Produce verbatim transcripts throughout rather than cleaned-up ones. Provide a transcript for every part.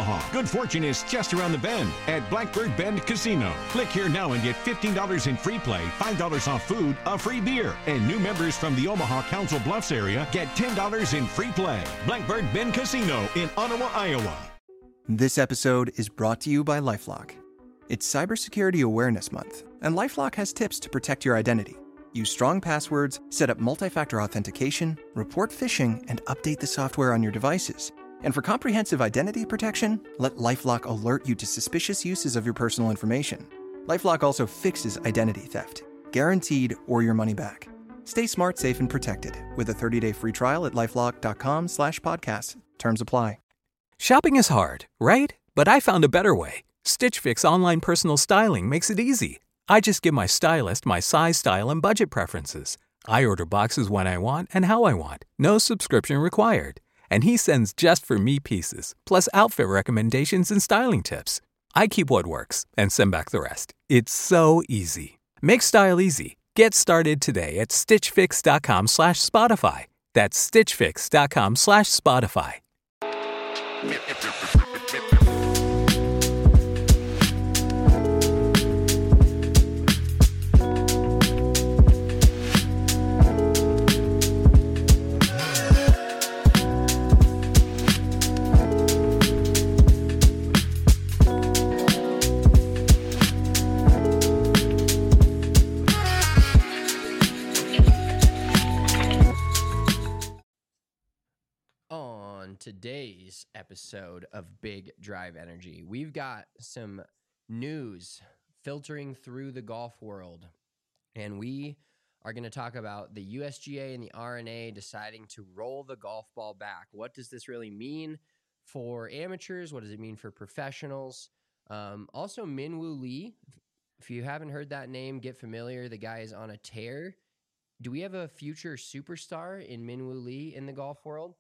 Omaha. Good fortune is just around the bend at Blackbird Bend Casino. Click here now and get fifteen dollars in free play, five dollars off food, a free beer. And new members from the Omaha Council Bluffs area get ten dollars in free play. Blackbird Bend Casino in Ottawa, Iowa. This episode is brought to you by LifeLock. It's Cybersecurity Awareness Month, and LifeLock has tips to protect your identity. Use strong passwords, set up multi-factor authentication, report phishing, and update the software on your devices. And for comprehensive identity protection, let LifeLock alert you to suspicious uses of your personal information. LifeLock also fixes identity theft, guaranteed or your money back. Stay smart, safe, and protected with a thirty-day free trial at LifeLock.com slash podcast. Terms apply. Shopping is hard, right? But I found a better way. Stitch Fix online personal styling makes it easy. I just give my stylist my size, style, and budget preferences. I order boxes when I want and how I want. No subscription required. And he sends just for me pieces, plus outfit recommendations and styling tips. I keep what works and send back the rest. It's so easy. Make style easy. Get started today at stitchfix.com slash Spotify. That's stitchfix.com slash Spotify. Today's episode of Big Drive Energy, we've got some news filtering through the golf world, and we are going to talk about the U S G A and the R N A deciding to roll the golf ball back. What does this really mean for amateurs? What does it mean for professionals? Um, also, Minwoo Lee, if you haven't heard that name, get familiar. The guy is on a tear. Do we have a future superstar in Minwoo Lee in the golf world?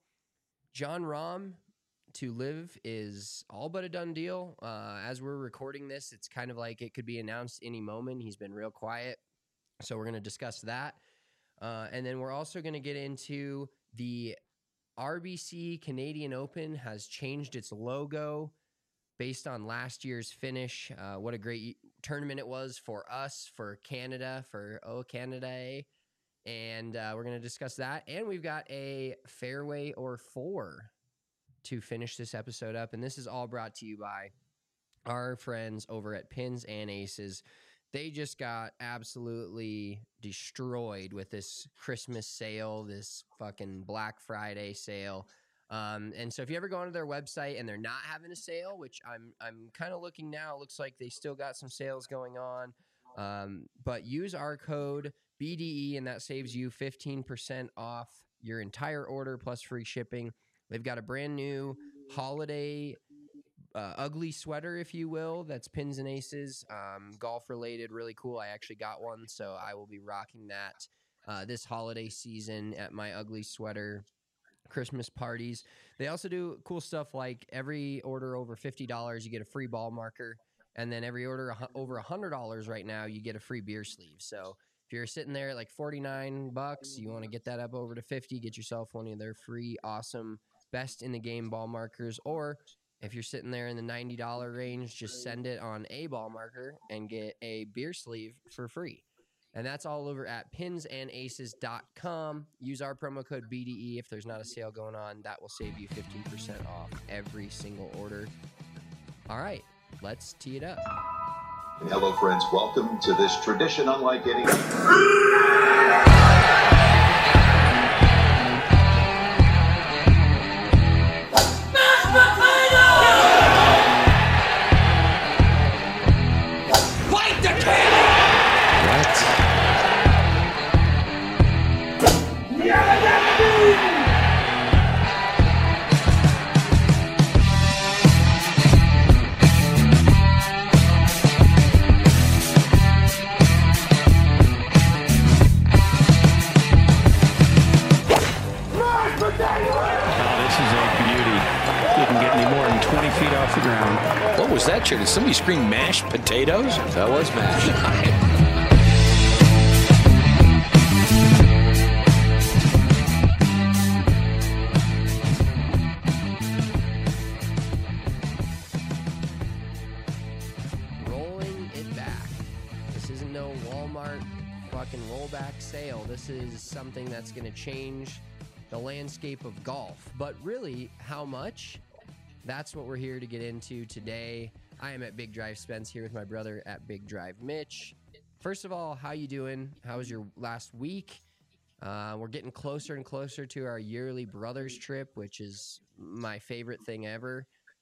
Jon Rahm to live is all but a done deal. Uh, as we're recording this, it's kind of like it could be announced any moment. He's been real quiet. So we're going to discuss that. Uh, and then we're also going to get into the R B C Canadian Open has changed its logo based on last year's finish. Uh, what a great tournament it was for us, for Canada, for Oh Canada. And uh, we're going to discuss that. And we've got a fairway or four to finish this episode up. And this is all brought to you by our friends over at Pins and Aces. They just got absolutely destroyed with this Christmas sale, this fucking Black Friday sale. Um, and so if you ever go onto their website and they're not having a sale, which I'm I'm kind of looking now, it looks like they still got some sales going on. Um, but use our code B D E, and that saves you fifteen percent off your entire order plus free shipping. They've got a brand new holiday uh, ugly sweater, if you will, that's Pins and Aces, um, golf related, really cool. I actually got one, so I will be rocking that uh, this holiday season at my ugly sweater Christmas parties. They also do cool stuff like every order over fifty dollars, you get a free ball marker, and then every order over one hundred dollars right now, you get a free beer sleeve. So if you're sitting there at like forty-nine bucks, you want to get that up over to fifty, get yourself one of their free, awesome, best in the game ball markers. Or if you're sitting there in the ninety dollars range, just send it on a ball marker and get a beer sleeve for free. And that's all over at pins and aces dot com. Use our promo code B D E if there's not a sale going on. That will save you fifteen percent off every single order. All right, let's tee it up. Hello, friends. Welcome to this tradition unlike any. Fight the king! What? Feet off the ground. What was that, Chair? Did somebody scream mashed potatoes? That was mashed. rollback sale. This is something that's going to change the landscape of golf. But really, how much? That's what we're here to get into today. I am at Big Drive Spence here with my brother at Big Drive Mitch. First of all, how you doing? How was your last week? Uh, we're getting closer and closer to our yearly brothers trip, which is my favorite thing ever.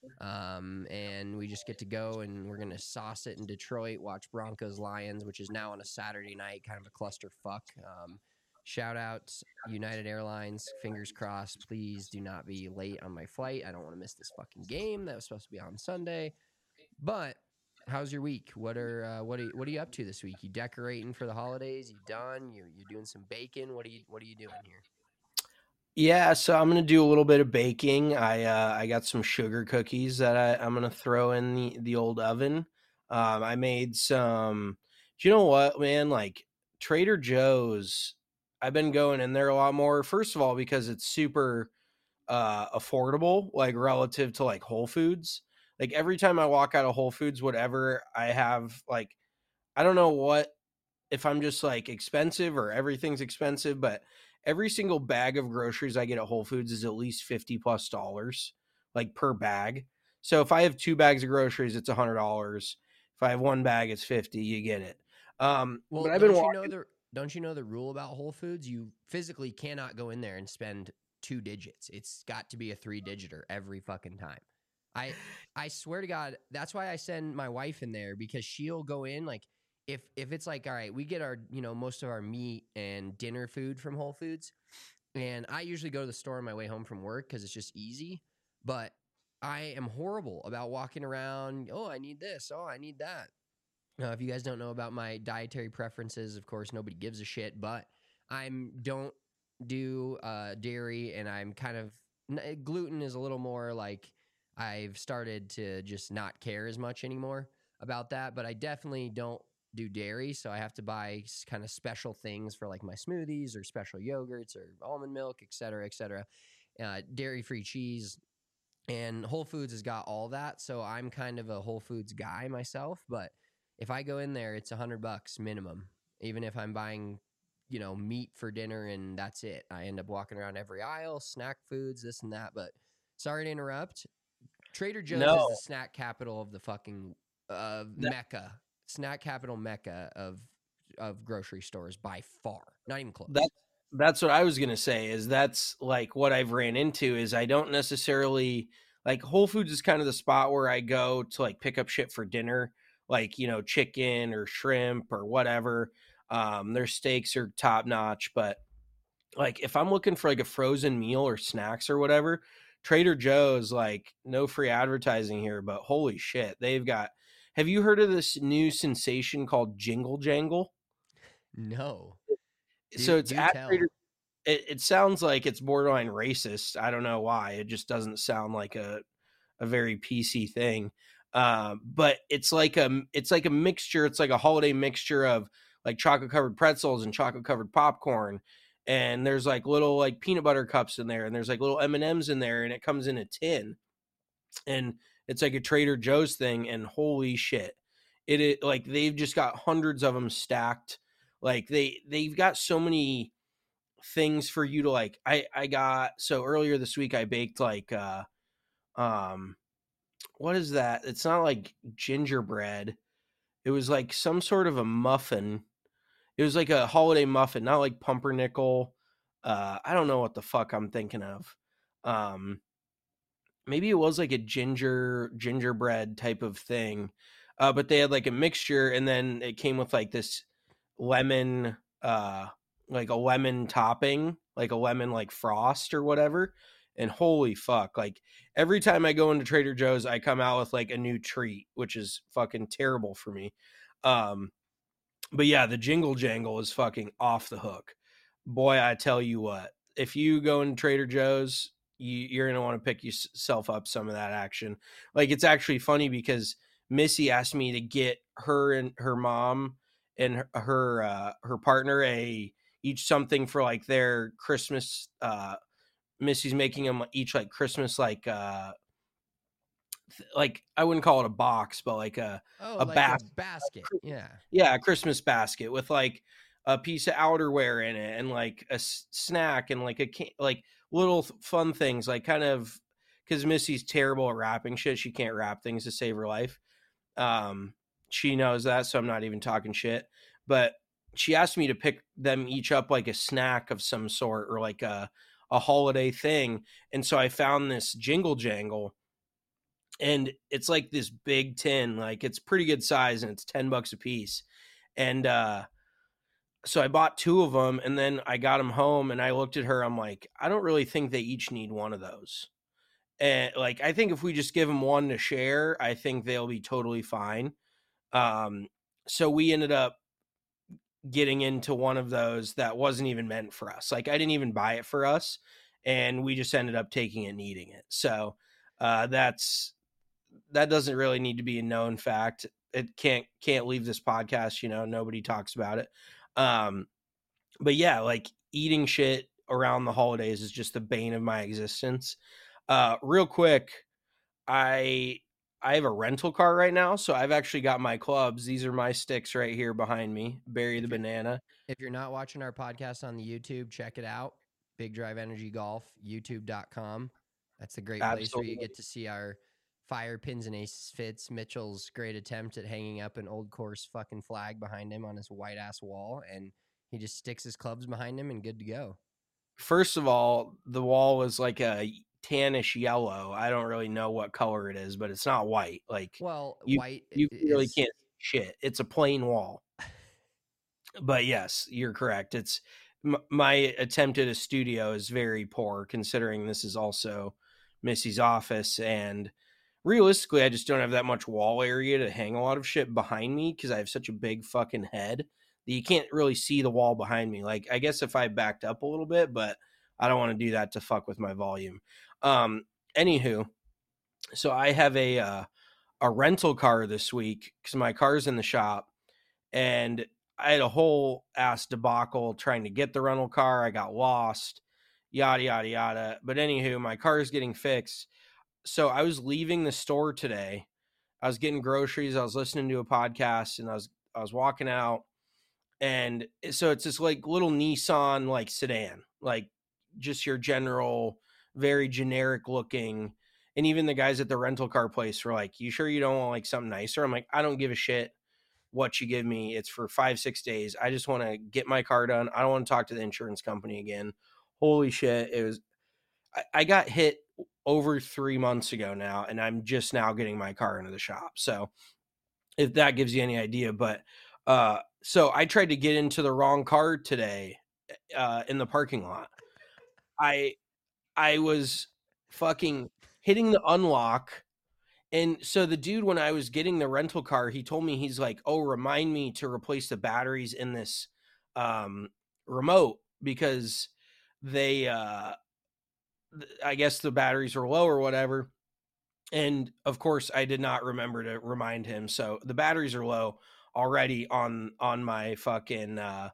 Um, and we just get to go and we're going to sauce it in Detroit, watch Broncos Lions, which is now on a Saturday night, kind of a clusterfuck. Um, shout out United Airlines, fingers crossed. Please do not be late on my flight. I don't want to miss this fucking game that was supposed to be on Sunday. But how's your week? What are uh, what are you, what are you up to this week? You decorating for the holidays? You done? You you doing some baking? What are you what are you doing here? Yeah, so I'm gonna do a little bit of baking. I uh, I got some sugar cookies that I, I'm gonna throw in the the old oven. Um, I made some. Do you know what, man? Like Trader Joe's, I've been going in there a lot more. First of all, because it's super uh, affordable, like relative to like Whole Foods. Like every time I walk out of Whole Foods, whatever, I have like, I don't know what, if I'm just like expensive or everything's expensive, but every single bag of groceries I get at Whole Foods is at least fifty plus dollars, like per bag. So if I have two bags of groceries, it's a hundred dollars. If I have one bag, it's fifty. You get it. Um, well, but I've don't been you walking... know the don't you know the rule about Whole Foods? You physically cannot go in there and spend two digits. It's got to be a three digiter every fucking time. I I swear to God, that's why I send my wife in there, because she'll go in like if if it's like, all right, we get our, you know, most of our meat and dinner food from Whole Foods, and I usually go to the store on my way home from work because it's just easy. But I am horrible about walking around. Oh, I need this. Oh, I need that. Now, if you guys don't know about my dietary preferences, of course, nobody gives a shit. But I'm don't do uh, dairy, and I'm kind of gluten is a little more like. I've started to just not care as much anymore about that, but I definitely don't do dairy, so I have to buy kind of special things for like my smoothies or special yogurts or almond milk, et cetera, et cetera. Uh, dairy-free cheese, and Whole Foods has got all that, so I'm kind of a Whole Foods guy myself, but if I go in there, it's a hundred bucks minimum, even if I'm buying, you know, meat for dinner and that's it. I end up walking around every aisle, snack foods, this and that, but sorry to interrupt. Trader Joe's no. is the snack capital of the fucking uh, that- Mecca, snack capital Mecca of of grocery stores by far. Not even close. That, that's what I was going to say is that's like what I've ran into is I don't necessarily like Whole Foods is kind of the spot where I go to like pick up shit for dinner, like, you know, chicken or shrimp or whatever. Um, their steaks are top notch, but like if I'm looking for like a frozen meal or snacks or whatever, Trader Joe's, like, no free advertising here, but holy shit, they've got. Have you heard of this new sensation called Jingle Jangle? No. Do, so it's at tell. Trader. It, it sounds like it's borderline racist. I don't know why. It just doesn't sound like a a very P C thing. Um, but it's like a it's like a mixture. It's like a holiday mixture of like chocolate covered pretzels and chocolate covered popcorn. And there's like little like peanut butter cups in there, and there's like little M and M's in there, and it comes in a tin, and it's like a Trader Joe's thing. And holy shit, it is like they've just got hundreds of them stacked. Like they they've got so many things for you to like. I I got so earlier this week I baked like uh um what is that? It's not like gingerbread. It was like some sort of a muffin. It was like a holiday muffin, not like pumpernickel. Uh, I don't know what the fuck I'm thinking of. Um, maybe it was like a ginger gingerbread type of thing. Uh, but they had like a mixture, and then it came with like this lemon, uh, like a lemon topping, like a lemon like frost or whatever. And holy fuck, like every time I go into Trader Joe's, I come out with like a new treat, which is fucking terrible for me. Um, But yeah, the Jingle Jangle is fucking off the hook. Boy, I tell you what, if you go into Trader Joe's, you, you're going to want to pick yourself up some of that action. Like, it's actually funny because Missy asked me to get her and her mom and her her, uh, her partner a each something for like their Christmas. Uh, Missy's making them each like Christmas, like uh, like I wouldn't call it a box, but like a oh, a like bas- a basket. Yeah, yeah, a Christmas basket with like a piece of outerwear in it and like a s- snack and like a can- like little th- fun things, like kind of because Missy's terrible at wrapping shit. She can't wrap things to save her life. Um, she knows that, so I'm not even talking shit. But she asked me to pick them each up like a snack of some sort or like a a holiday thing. And so I found this Jingle Jangle, and it's like this big tin, like it's pretty good size, and it's ten bucks a piece. And uh so I bought two of them, and then I got them home, and I looked at her. I'm like, I don't really think they each need one of those. And like, I think if we just give them one to share, I think they'll be totally fine. Um, so we ended up getting into one of those that wasn't even meant for us. Like, I didn't even buy it for us, and we just ended up taking it and eating it. So uh, that's that doesn't really need to be a known fact. It can't can't leave this podcast. You know, nobody talks about it. Um, but yeah, like eating shit around the holidays is just the bane of my existence. Uh, real quick, I I have a rental car right now, so I've actually got my clubs. These are my sticks right here behind me. Barry the Banana. If you're not watching our podcast on the YouTube, check it out. Big Drive Energy Golf, youtube dot com. That's a great place Absolutely. where you get to see our fire pins and aces fits. Mitchell's great attempt at hanging up an old course fucking flag behind him on his white ass wall, and he just sticks his clubs behind him and good to go. First of all, the wall was like a tannish yellow. I don't really know what color it is, but it's not white. Like, Well, you, white you really is, can't see shit. It's a plain wall. But yes, you're correct. It's m- my attempt at a studio is very poor, considering this is also Missy's office, and realistically, I just don't have that much wall area to hang a lot of shit behind me because I have such a big fucking head that you can't really see the wall behind me. Like, I guess if I backed up a little bit, but I don't want to do that to fuck with my volume. Um, anywho, so I have a uh, a rental car this week because my car's in the shop, and I had a whole ass debacle trying to get the rental car. I got lost, yada yada yada. But anywho, my car is getting fixed. So I was leaving the store today. I was getting groceries. I was listening to a podcast, and I was I was walking out. And so it's this like little Nissan like sedan, like just your general, very generic looking. And even the guys at the rental car place were like, "You sure you don't want like something nicer?" I'm like, "I don't give a shit what you give me. It's for five, six days. I just want to get my car done. I don't want to talk to the insurance company again." Holy shit. It was, I, I got hit over three months ago now, and I'm just now getting my car into the shop. So if that gives you any idea, but, uh, so I tried to get into the wrong car today, uh, in the parking lot. I, I was fucking hitting the unlock. And so the dude, when I was getting the rental car, he told me, he's like, "Oh, remind me to replace the batteries in this um, remote because they, uh, th- I guess the batteries were low or whatever." And of course, I did not remember to remind him. So the batteries are low already on on my fucking uh,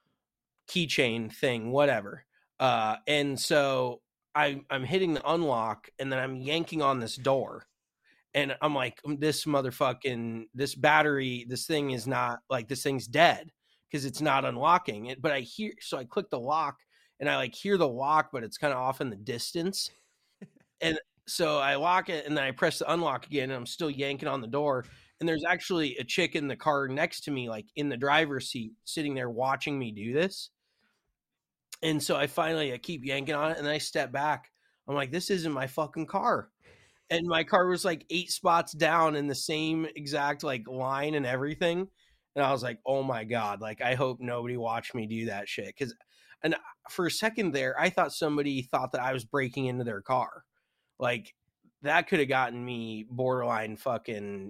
keychain thing, whatever. Uh, and so I, I'm hitting the unlock, and then I'm yanking on this door. And I'm like, this motherfucking, this battery, this thing is not like, this thing's dead because it's not unlocking it. But I hear, so I click the lock, and I like hear the lock, but it's kind of off in the distance. And so I lock it, and then I press the unlock again, and I'm still yanking on the door. And there's actually a chick in the car next to me, like in the driver's seat, sitting there watching me do this. And so I finally, I keep yanking on it, and then I step back. I'm like, this isn't my fucking car. And my car was like eight spots down in the same exact like line and everything. And I was like, oh my God, like, I hope nobody watched me do that shit. Cause, and for a second there, I thought somebody thought that I was breaking into their car. Like, that could have gotten me borderline fucking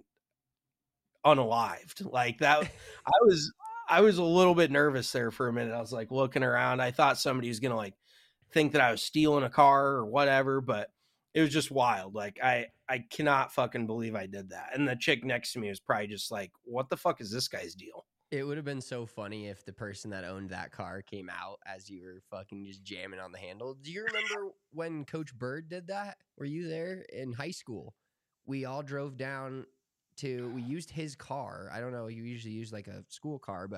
unalived. Like that. I was, I was a little bit nervous there for a minute. I was like looking around. I thought somebody was going to like think that I was stealing a car or whatever, but it was just wild. Like, I, I cannot fucking believe I did that. And the chick next to me was probably just like, what the fuck is this guy's deal? It would have been so funny if the person that owned that car came out as you were fucking just jamming on the handle. Do you remember when Coach Bird did that? Were you there in high school? We all drove down to, we used his car. I don't know. You usually use like a school car, but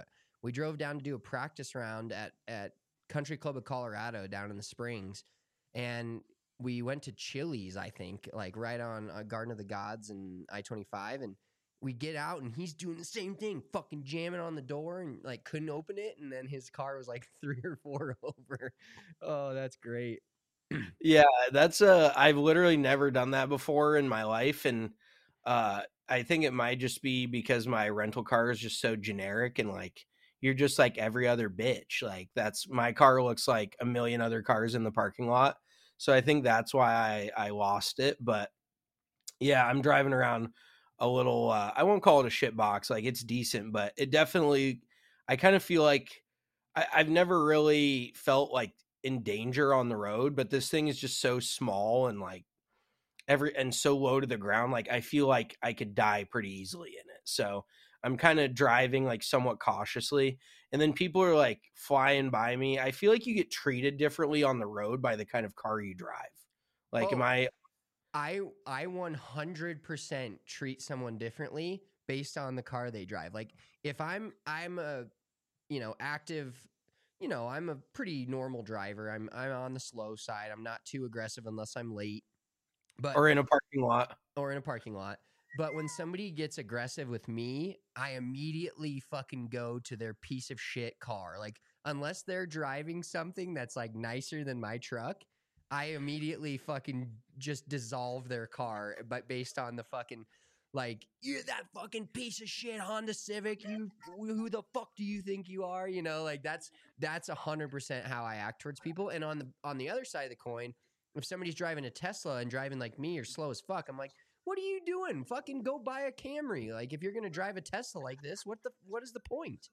we drove down to do a practice round at, at Country Club of Colorado down in the Springs. And we went to Chili's, I think, like right on uh, Garden of the Gods and I twenty-five. And we get out and he's doing the same thing, fucking jamming on the door and like couldn't open it. And then his car was like three or four over. Oh, that's great. Yeah, that's uh I've literally never done that before in my life. And uh I think it might just be because my rental car is just so generic and like you're just like every other bitch. Like that's my car looks like a million other cars in the parking lot. So I think that's why I, I lost it. But yeah, I'm driving around a little, uh, I won't call it a shit box. Like it's decent, but it definitely, I kind of feel like I, I've never really felt like in danger on the road, but this thing is just so small and like every, and so low to the ground. Like I feel like I could die pretty easily in it. So I'm kind of driving like somewhat cautiously. And then people are like flying by me. I feel like you get treated differently on the road by the kind of car you drive. Like, oh, am I, I, I one hundred percent treat someone differently based on the car they drive. Like if I'm, I'm a, you know, active, you know, I'm a pretty normal driver. I'm, I'm on the slow side. I'm not too aggressive unless I'm late, but, or in a parking lot or in a parking lot. But when somebody gets aggressive with me, I immediately fucking go to their piece of shit car. Like, unless they're driving something that's like nicer than my truck, I immediately fucking just dissolve their car. But based on the fucking, like, you're that fucking piece of shit Honda Civic. You, who the fuck do you think you are? You know, like that's that's a hundred percent how I act towards people. And on the on the other side of the coin, if somebody's driving a Tesla and driving like me or slow as fuck, I'm like, what are you doing? Fucking go buy a Camry. Like if you're going to drive a Tesla like this, what the, what is the point?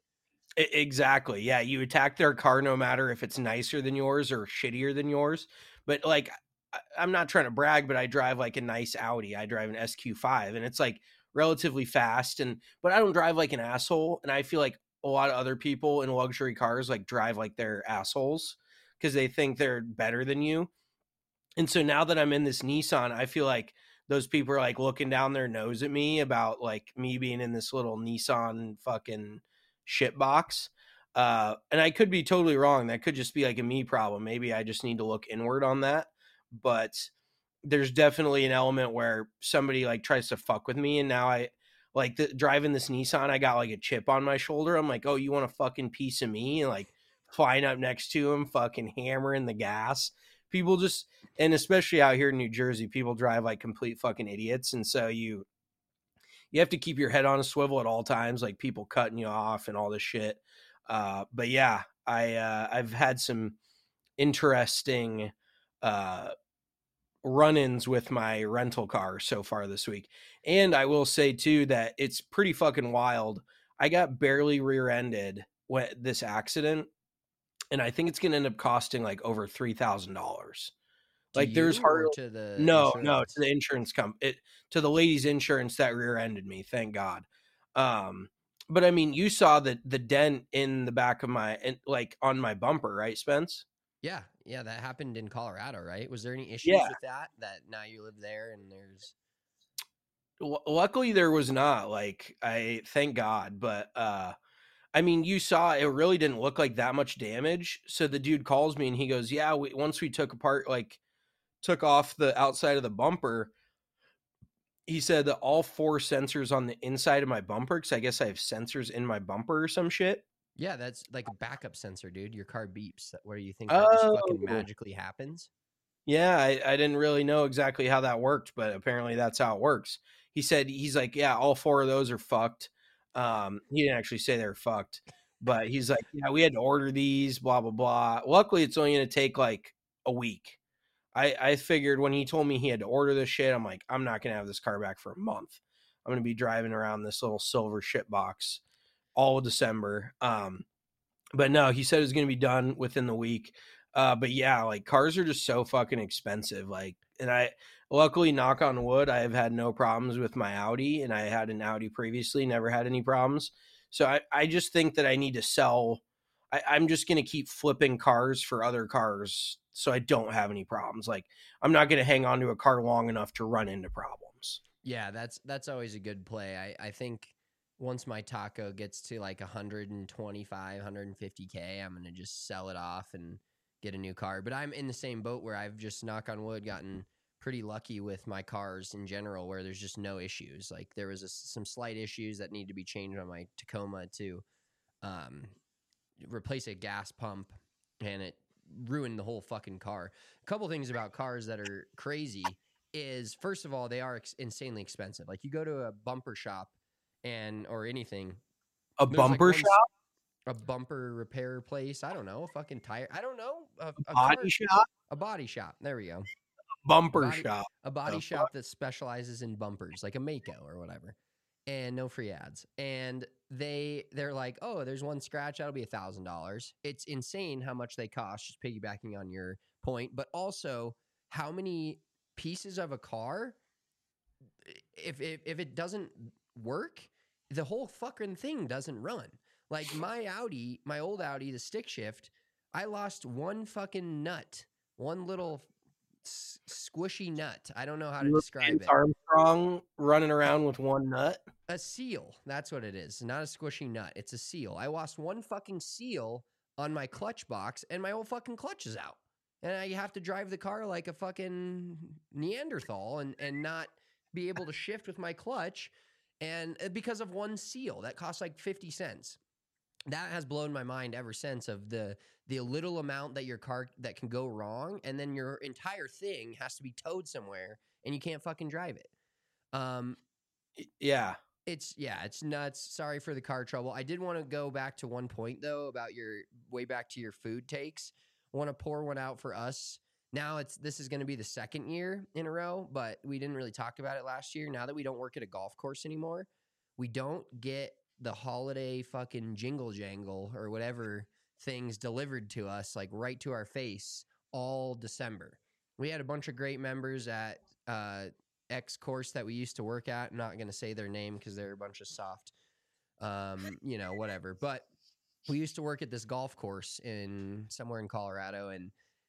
Exactly. Yeah. You attack their car, no matter if it's nicer than yours or shittier than yours. But like, I'm not trying to brag, but I drive like a nice Audi. I drive an S Q five and it's like relatively fast. And, but I don't drive like an asshole. And I feel like a lot of other people in luxury cars like drive like they're assholes because they think they're better than you. And so now that I'm in this Nissan, I feel like those people are like looking down their nose at me about like me being in this little Nissan fucking shit box. Uh, and I could be totally wrong. That could just be like a me problem. Maybe I just need to look inward on that. But there's definitely an element where somebody like tries to fuck with me. And now I like the, driving this Nissan, I got like a chip on my shoulder. I'm like, oh, you want a fucking piece of me? And like flying up next to him, fucking hammering the gas. People just, and especially out here in New Jersey, people drive like complete fucking idiots. And so you, you have to keep your head on a swivel at all times, like people cutting you off and all this shit. Uh, but yeah, I, uh, I've had some interesting, uh, run-ins with my rental car so far this week. And I will say too, that it's pretty fucking wild. I got barely rear-ended when this accident. And I think it's going to end up costing like over three thousand dollars. Like there's hard to the no, insurance? no, to the insurance company, it to the lady's insurance that rear-ended me. Thank God. Um, but I mean, you saw the, the dent in the back of my, like on my bumper, right, Spence? Yeah. Yeah. That happened in Colorado, right? Was there any issues Yeah. with that, that now you live there and there's. L- luckily there was not, like, I thank God, but, uh, I mean, you saw it really didn't look like that much damage. So the dude calls me and he goes, yeah, we, once we took apart, like took off the outside of the bumper, he said that all four sensors on the inside of my bumper, because I guess I have sensors in my bumper or some shit. Yeah, that's like a backup sensor, dude. Your car beeps. Where you think that just fucking Oh. magically happens? Yeah, I, I didn't really know exactly how that worked, but apparently that's how it works. He said, he's like, yeah, all four of those are fucked. Um, he didn't actually say they're fucked, but he's like, yeah, we had to order these, blah, blah, blah. Luckily, it's only going to take like a week. I, I figured when he told me he had to order this shit, I'm like, I'm not going to have this car back for a month. I'm going to be driving around this little silver shit box all of December. Um, but no, he said it was going to be done within the week. Uh, but yeah, like cars are just so fucking expensive. Like, and I, luckily, knock on wood, I have had no problems with my Audi, and I had an Audi previously, never had any problems. So I, I just think that I need to sell. I, I'm just going to keep flipping cars for other cars so I don't have any problems. Like I'm not going to hang on to a car long enough to run into problems. Yeah, that's that's always a good play. I, I think once my taco gets to like one twenty-five, one fifty K, I'm going to just sell it off and get a new car. But I'm in the same boat where I've just, knock on wood, gotten pretty lucky with my cars in general, where there's just no issues. Like there was a, some slight issues that need to be changed on my Tacoma to um, replace a gas pump, and it ruined the whole fucking car. A couple things about cars that are crazy is, first of all, they are ex- insanely expensive. Like you go to a bumper shop and or anything, a bumper like shop, a bumper repair place. I don't know, a fucking tire. I don't know, a, a, a body car, shop, a body shop. There we go. Bumper a body, shop, a body the shop fuck? that specializes in bumpers, like a Mako or whatever, and no free ads. And they they're like, oh, there's one scratch, that'll be a thousand dollars. It's insane how much they cost. Just piggybacking on your point, but also how many pieces of a car, if if, if it doesn't work, the whole fucking thing doesn't run. Like my Audi, my old Audi, the stick shift, I lost one fucking nut, one little s- squishy nut. I don't know how to You were describe Lance it. Armstrong running around with one nut. A seal. That's what it is. Not a squishy nut. It's a seal. I lost one fucking seal on my clutch box, and my whole fucking clutch is out. And I have to drive the car like a fucking Neanderthal and, and not be able to shift with my clutch. And because of one seal that costs like fifty cents. That has blown my mind ever since, of the the little amount that your car that can go wrong, and then your entire thing has to be towed somewhere and you can't fucking drive it. Um, Yeah. It's yeah, it's nuts. Sorry for the car trouble. I did want to go back to one point though about your way back to your food takes. I want to pour one out for us. Now it's this is going to be the second year in a row, but we didn't really talk about it last year. Now that we don't work at a golf course anymore, we don't get the holiday fucking jingle jangle or whatever things delivered to us like right to our face all December. We had a bunch of great members at uh X course that we used to work at. I'm not going to say their name because they're a bunch of soft, um, you know, whatever. But we used to work at this golf course in somewhere in Colorado, and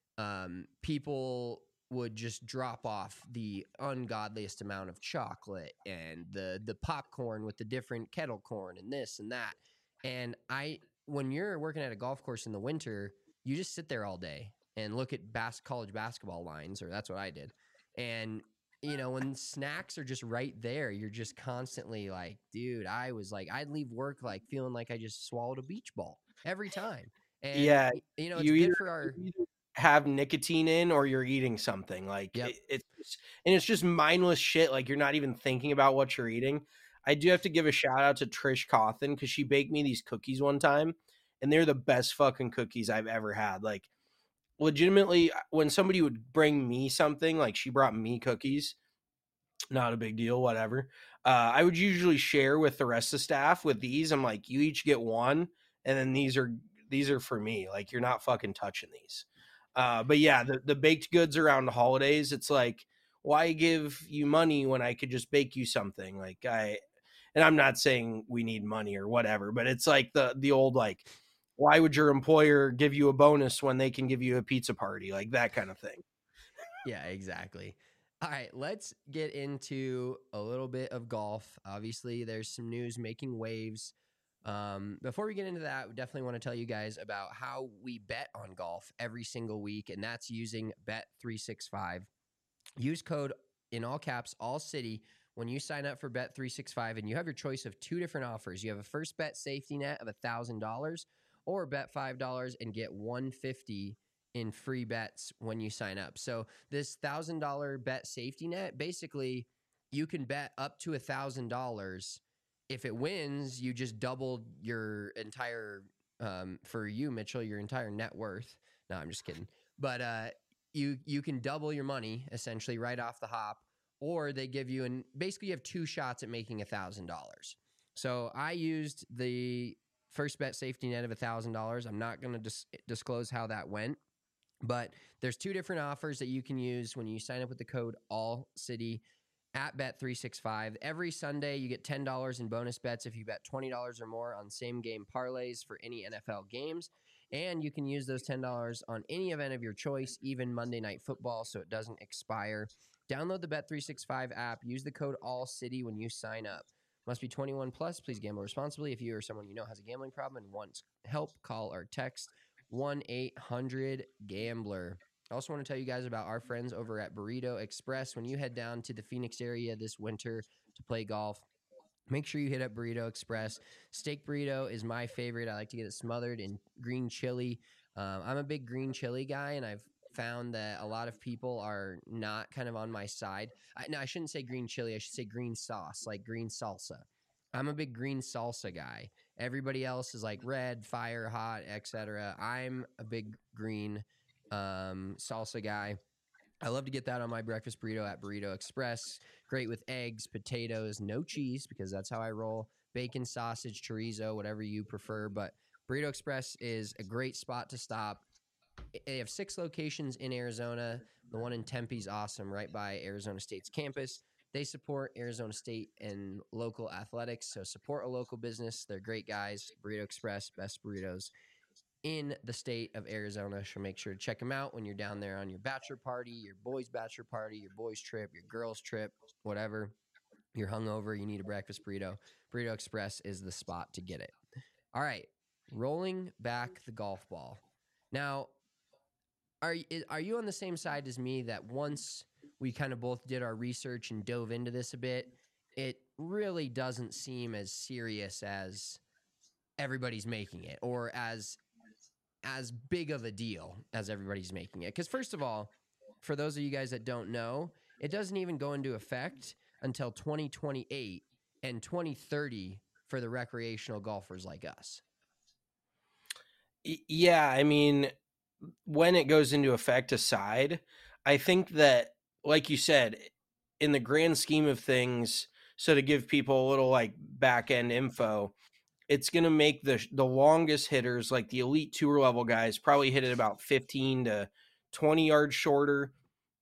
um, people would just drop off the ungodliest amount of chocolate and the the popcorn with the different kettle corn and this and that. And I, when you're working at a golf course in the winter, you just sit there all day and look at bas- college basketball lines, or that's what I did. And you know, when snacks are just right there, you're just constantly like, dude, I was like, I'd leave work like feeling like I just swallowed a beach ball every time. And Yeah, you know, it's you good either, for our. you either have nicotine in or you're eating something like Yep. it, it's just, and it's just mindless shit. Like you're not even thinking about what you're eating. I do have to give a shout out to Trish Cawthon because she baked me these cookies one time, and they're the best fucking cookies I've ever had. Like legitimately, when somebody would bring me something, like she brought me cookies, not a big deal, whatever. Uh, I would usually share with the rest of the staff with these. I'm like, you each get one, and then these are these are for me. Like you're not fucking touching these. Uh, but yeah, the, the baked goods around the holidays, it's like, why give you money when I could just bake you something? Like I, and I'm not saying we need money or whatever, but it's like the the old like, why would your employer give you a bonus when they can give you a pizza party? Like that kind of thing. Yeah, exactly. All right, let's get into a little bit of golf. Obviously, there's some news making waves. Um, before we get into that, we definitely want to tell you guys about how we bet on golf every single week, and that's using Bet three sixty-five. Use code in all caps, all city, when you sign up for Bet three sixty-five, and you have your choice of two different offers. You have a first bet safety net of one thousand dollars, or bet five dollars and get one hundred fifty dollars in free bets when you sign up. So this one thousand dollars bet safety net, basically you can bet up to one thousand dollars. If it wins, you just doubled your entire, um, for you, Mitchell, your entire net worth. No, I'm just kidding. But uh, you you can double your money essentially right off the hop, or they give you, and basically you have two shots at making one thousand dollars. So I used the first bet safety net of one thousand dollars. I'm not going to dis- disclose how that went. But there's two different offers that you can use when you sign up with the code ALLCITY at Bet three sixty-five. Every Sunday, you get ten dollars in bonus bets if you bet twenty dollars or more on same-game parlays for any N F L games. And you can use those ten dollars on any event of your choice, even Monday Night Football, so it doesn't expire. Download the Bet three sixty-five app. Use the code ALLCITY when you sign up. Must be twenty-one plus. Please gamble responsibly. If you or someone you know has a gambling problem and wants help, call or text one eight hundred gambler. I also want to tell you guys about our friends over at Burrito Express. When you head down to the Phoenix area this winter to play golf, make sure you hit up Burrito Express. Steak burrito is my favorite. I like to get it smothered in green chili. Um, I'm a big green chili guy, and I've found that a lot of people are not kind of on my side. I, no, I shouldn't say green chili. I should say green sauce, like green salsa. I'm a big green salsa guy. Everybody else is like red, fire, hot, et cetera. I'm a big green um, salsa guy. I love to get that on my breakfast burrito at Burrito Express. Great with eggs, potatoes, no cheese because that's how I roll. Bacon, sausage, chorizo, whatever you prefer. But Burrito Express is a great spot to stop. They have six locations in Arizona. The one in Tempe is awesome, right by Arizona State's campus. They support Arizona State and local athletics, so support a local business. They're great guys. Burrito Express, best burritos in the state of Arizona. So make sure to check them out when you're down there on your bachelor party, your boys' bachelor party, your boys' trip, your girls' trip, whatever. You're hungover, you need a breakfast burrito. Burrito Express is the spot to get it. All right, rolling back the golf ball. Now, are are you on the same side as me that once we kind of both did our research and dove into this a bit, it really doesn't seem as serious as everybody's making it, or as as big of a deal as everybody's making it? Because first of all, for those of you guys that don't know, it doesn't even go into effect until twenty twenty-eight and twenty thirty for the recreational golfers like us. Yeah, I mean, when it goes into effect aside, I think that, like you said, in the grand scheme of things, so to give people a little like back end info, it's going to make the the longest hitters, like the elite tour level guys, probably hit it about fifteen to twenty yards shorter.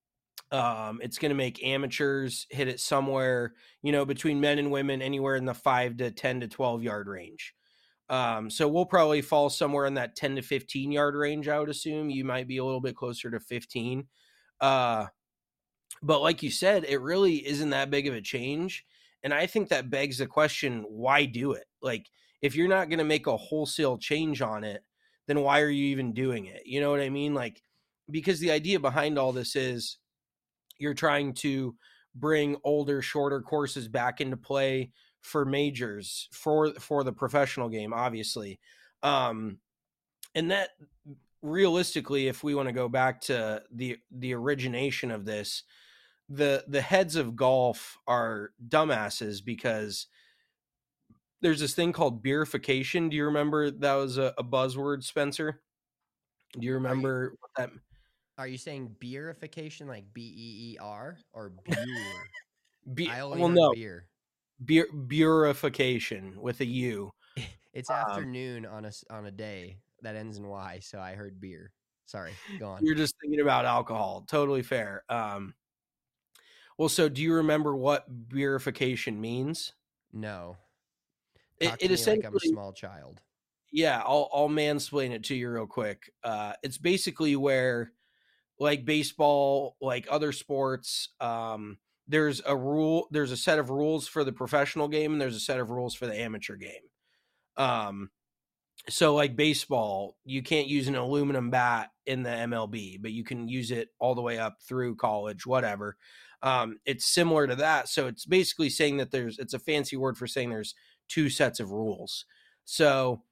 Um, it's going to make amateurs hit it somewhere, you know, between men and women, anywhere in the five to ten to twelve yard range. Um, so we'll probably fall somewhere in that ten to fifteen yard range. I would assume you might be a little bit closer to fifteen. Uh, but like you said, it really isn't that big of a change. And I think that begs the question, why do it? Like, if you're not going to make a wholesale change on it, then why are you even doing it? You know what I mean? Like, because the idea behind all this is you're trying to bring older, shorter courses back into play for majors, for for the professional game, obviously. Um, and that realistically, if we want to go back to the the origination of this, the the heads of golf are dumbasses because there's this thing called beerification. Do you remember that was a, a buzzword, Spencer? Do you remember you, what that? Are you saying beerification, like B E E R, or beer? Be- I only well, heard no. beer. Beer, beerification with a U. It's um, afternoon on a on a day that ends in Y, so I heard beer. Sorry, go on. You're just thinking about alcohol. Totally fair. Um, well, so do you remember what beerification means? No. It, it me essentially, like I'm a small child. Yeah, I'll I'll mansplain it to you real quick. Uh, it's basically where, like baseball, like other sports, um, there's a rule, there's a set of rules for the professional game, and there's a set of rules for the amateur game. Um, so like baseball, you can't use an aluminum bat in the M L B, but you can use it all the way up through college, whatever. Um, it's similar to that. So it's basically saying that there's, it's a fancy word for saying there's two sets of rules. So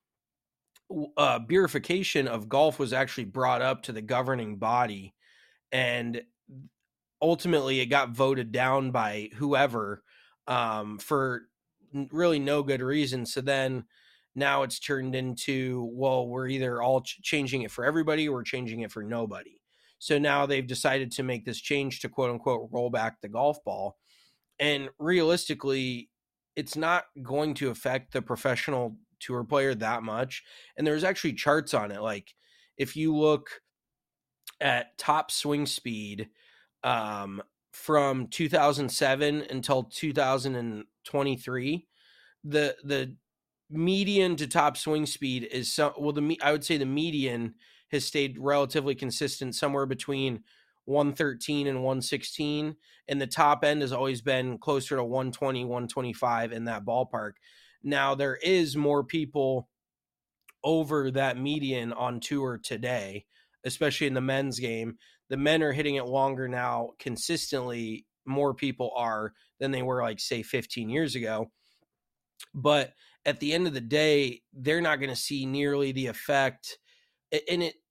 uh, beerification of golf was actually brought up to the governing body, and ultimately it got voted down by whoever um, for really no good reason. So then now it's turned into, well, we're either all ch- changing it for everybody or we're changing it for nobody. So now they've decided to make this change to quote unquote roll back the golf ball. And realistically, it's not going to affect the professional tour player that much. And there's actually charts on it. Like if you look at top swing speed um, from two thousand seven until two thousand twenty-three, the the median to top swing speed is some, well, the I would say the median has stayed relatively consistent, somewhere between one thirteen and one sixteen, and the top end has always been closer to one twenty, one twenty-five in that ballpark. Now there is more people over that median on tour today, especially in the men's game. The men are hitting it longer now consistently. More people are than they were, like, say, fifteen years ago. But at the end of the day, they're not going to see nearly the effect. And it,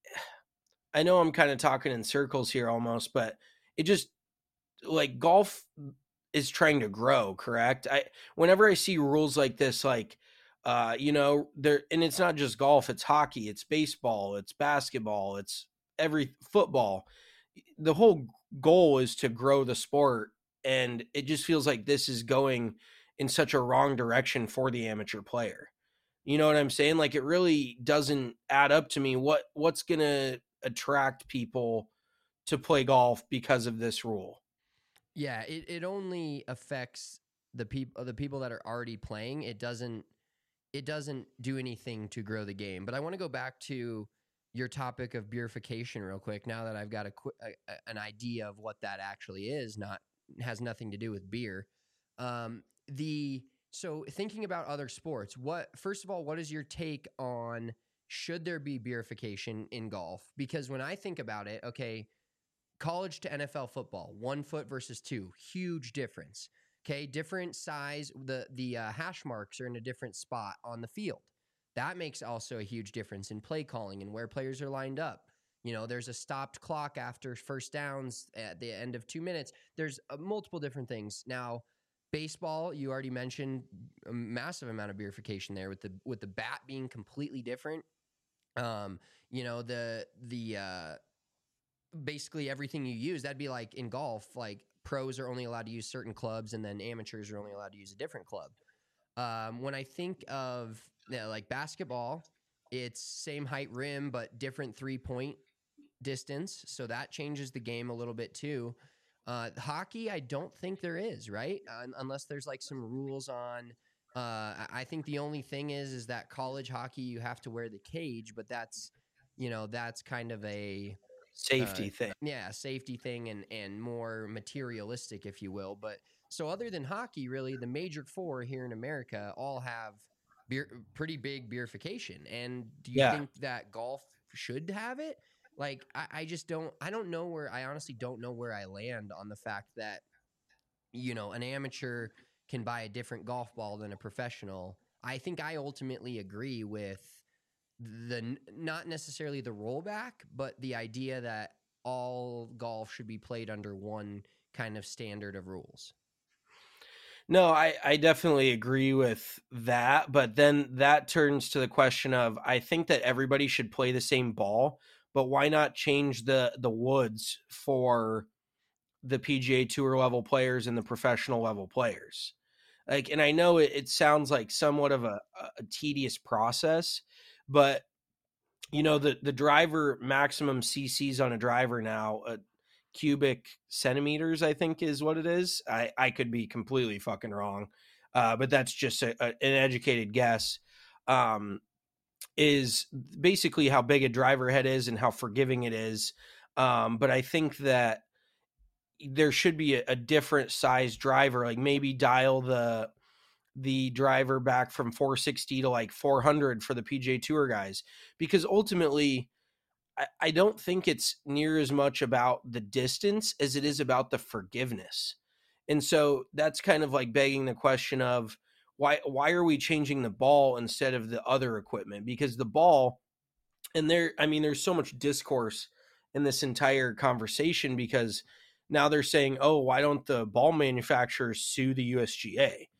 I know I'm kind of talking in circles here almost, but it just, like, golf is trying to grow, correct? I, whenever I see rules like this, like, uh, you know, there, and it's not just golf, it's hockey, it's baseball, it's basketball, it's every football. The whole goal is to grow the sport. And it just feels like this is going in such a wrong direction for the amateur player. You know what I'm saying? Like, it really doesn't add up to me. What, what's going to attract people to play golf because of this rule? Yeah, it, it only affects the people, the people that are already playing. It doesn't, it doesn't do anything to grow the game. But I want to go back to your topic of beerification real quick. Now that I've got a, a an idea of what that actually is, not has nothing to do with beer. Um, the so thinking about other sports, what first of all, what is your take on should there be beerification in golf? Because when I think about it, okay, college to N F L football, one foot versus two, huge difference. Okay, different size. The the uh, hash marks are in a different spot on the field. That makes also a huge difference in play calling and where players are lined up. You know, there's a stopped clock after first downs at the end of two minutes. There's uh, multiple different things. Now, baseball, you already mentioned a massive amount of beerification there with the with the bat being completely different. Um, you know, the the uh, basically everything you use, that'd be like in golf, like pros are only allowed to use certain clubs and then amateurs are only allowed to use a different club. Um, when I think of you know, like basketball, it's same height rim, but different three-point distance. So that changes the game a little bit too. Uh, hockey, I don't think there is, right? Uh, unless there's like some rules on, uh, I think the only thing is, is that college hockey, you have to wear the cage, but that's, you know, that's kind of a safety uh, thing. Yeah. Safety thing and, and more materialistic, if you will. But so other than hockey, really the major four here in America all have beer, pretty big beerification. And do you Yeah. think that golf should have it? Like, I, I just don't, I don't know where, I honestly don't know where I land on the fact that, you know, an amateur can buy a different golf ball than a professional. I think I ultimately agree with the, not necessarily the rollback, but the idea that all golf should be played under one kind of standard of rules. No, I, I definitely agree with that. But then that turns to the question of, I think that everybody should play the same ball, but why not change the, the woods for the P G A Tour level players and the professional level players? Like, and I know it, it sounds like somewhat of a, a tedious process, but you know, the, the driver maximum C Cs on a driver now, uh, cubic centimeters, I think is what it is. I, I could be completely fucking wrong. Uh, but that's just a, a, an educated guess. Um, is basically how big a driver head is and how forgiving it is. Um, but I think that there should be a, a different size driver, like maybe dial the, the driver back from four sixty to like four hundred for the P G A Tour guys, because ultimately I, I don't think it's near as much about the distance as it is about the forgiveness. And so that's kind of like begging the question of, Why why are we changing the ball instead of the other equipment? Because the ball, and there, I mean, there's so much discourse in this entire conversation because now they're saying, oh, why don't the ball manufacturers sue the U S G A?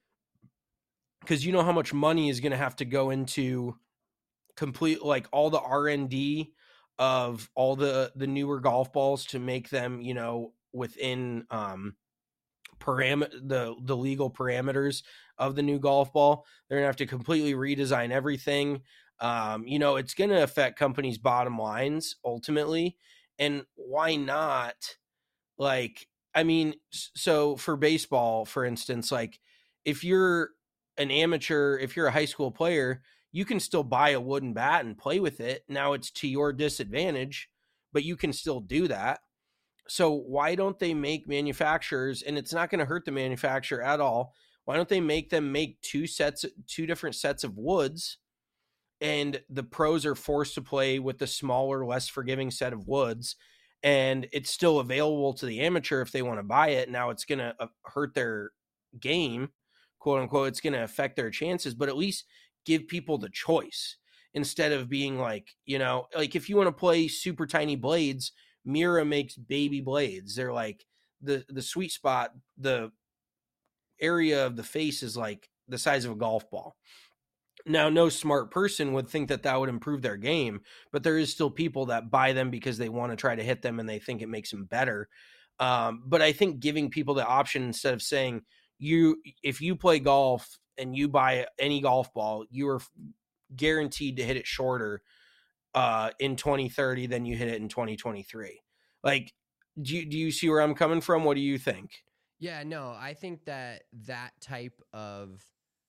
Because you know how much money is going to have to go into complete, like all the R and D of all the, the newer golf balls to make them, you know, within um, param- the, the legal parameters of the new golf ball. They're gonna have to completely redesign everything. Um, you know, it's gonna affect companies' bottom lines ultimately. And why not? Like, I mean, so for baseball, for instance, like if you're an amateur, if you're a high school player, you can still buy a wooden bat and play with it. Now it's to your disadvantage, but you can still do that. So why don't they make manufacturers, and it's not going to hurt the manufacturer at all, why don't they make them make two sets, two different sets of woods, and the pros are forced to play with the smaller, less forgiving set of woods, and it's still available to the amateur if they want to buy it. Now it's going to hurt their game, quote unquote. It's going to affect their chances, but at least give people the choice instead of being like, you know, like if you want to play super tiny blades, Mira makes baby blades. They're like the, the sweet spot, the area of the face is like the size of a golf ball. Now, no smart person would think that that would improve their game, but there is still people that buy them because they want to try to hit them and they think it makes them better. Um, but I think giving people the option instead of saying, you, if you play golf and you buy any golf ball, you are guaranteed to hit it shorter uh, in twenty thirty than you hit it in twenty twenty-three. Like, do you, do you see where I'm coming from? What do you think? Yeah, no, I think that that type of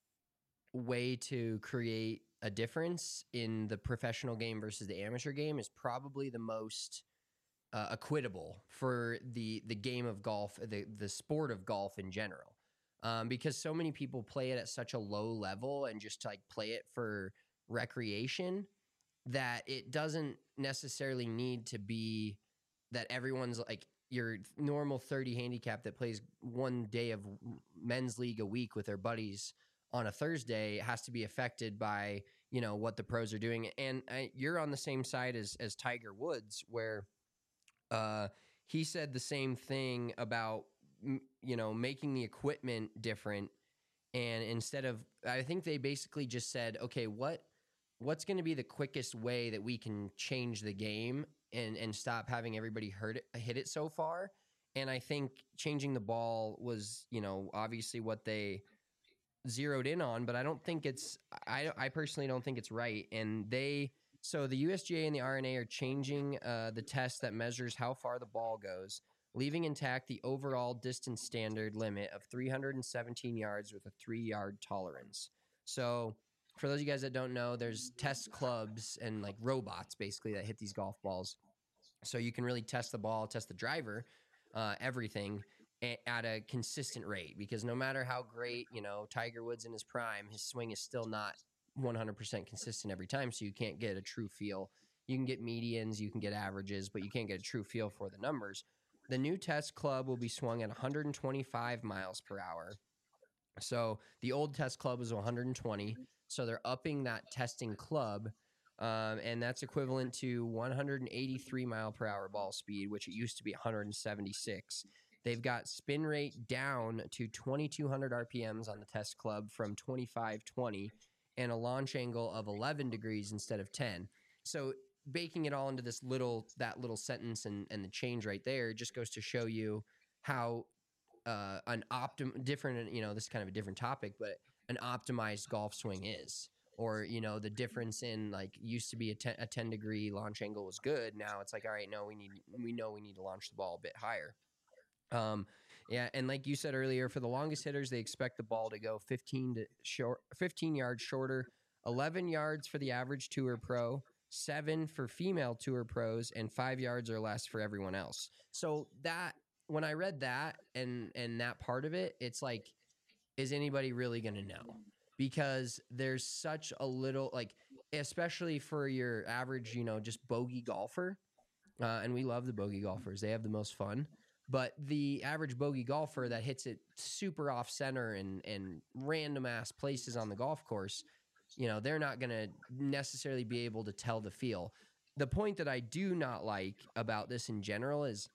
way to create a difference in the professional game versus the amateur game is probably the most uh, equitable for the the game of golf, the the sport of golf in general, um, because so many people play it at such a low level and just like play it for recreation that it doesn't necessarily need to be that everyone's like your normal thirty handicap that plays one day of men's league a week with their buddies on a Thursday has to be affected by, you know, what the pros are doing. And I, you're on the same side as, as Tiger Woods, where uh, he said the same thing about, you know, making the equipment different. And instead of, I think they basically just said, okay, what, what's going to be the quickest way that we can change the game and, and stop having everybody hurt it, hit it so far. And I think changing the ball was, you know, obviously what they zeroed in on, but I don't think it's, I, I personally don't think it's right. And they, so the U S G A and the R N A are changing uh, the test that measures how far the ball goes, leaving intact the overall distance standard limit of three hundred seventeen yards with a three yard tolerance. So for those of you guys that don't know, there's test clubs and like robots basically that hit these golf balls. So you can really test the ball, test the driver, uh, everything at a consistent rate, because no matter how great, you know, Tiger Woods in his prime, his swing is still not one hundred percent consistent every time. So you can't get a true feel. You can get medians, you can get averages, but you can't get a true feel for the numbers. The new test club will be swung at one hundred twenty-five miles per hour. So the old test club was one hundred twenty. So they're upping that testing club. Um, and that's equivalent to one hundred eighty-three mile per hour ball speed, which it used to be one hundred seventy-six. They've got spin rate down to twenty-two hundred R P Ms on the test club from twenty-five twenty and a launch angle of eleven degrees instead of ten. So baking it all into this little, that little sentence and, and the change right there just goes to show you how uh, an optim different, you know, this is kind of a different topic, but an optimized golf swing is. Or, you know, the difference in like used to be a ten, a ten degree launch angle was good. Now it's like, all right, no, we need, we know we need to launch the ball a bit higher. Um, yeah. And like you said earlier, for the longest hitters, they expect the ball to go fifteen to short, fifteen yards shorter, eleven yards for the average tour pro, seven for female tour pros, and five yards or less for everyone else. So that, when I read that and, and that part of it, it's like, is anybody really going to know? Because there's such a little, like, especially for your average, you know, just bogey golfer. Uh, and we love the bogey golfers. They have the most fun. But the average bogey golfer that hits it super off center and, and random ass places on the golf course, you know, they're not going to necessarily be able to tell the feel. The point that I do not like about this in general is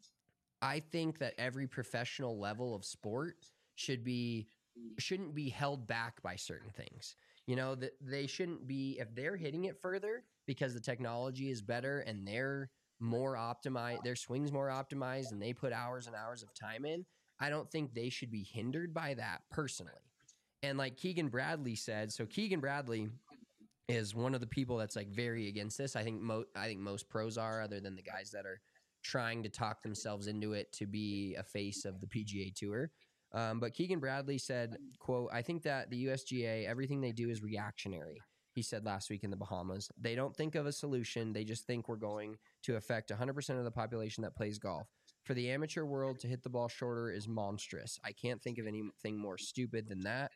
I think that every professional level of sport should be shouldn't be held back by certain things. You know, that they shouldn't be, if they're hitting it further because the technology is better and they're more optimized, their swing's more optimized and they put hours and hours of time in, I don't think they should be hindered by that personally. And like Keegan Bradley said, so Keegan Bradley is one of the people that's like very against this. I think mo- I think most pros are, other than the guys that are trying to talk themselves into it to be a face of the P G A Tour. Um, but Keegan Bradley said, quote, "I think that the U S G A, everything they do is reactionary." He said last week in the Bahamas. "They don't think of a solution. They just think we're going to affect one hundred percent of the population that plays golf. for the amateur world to hit the ball shorter is monstrous. I can't think of anything more stupid than that.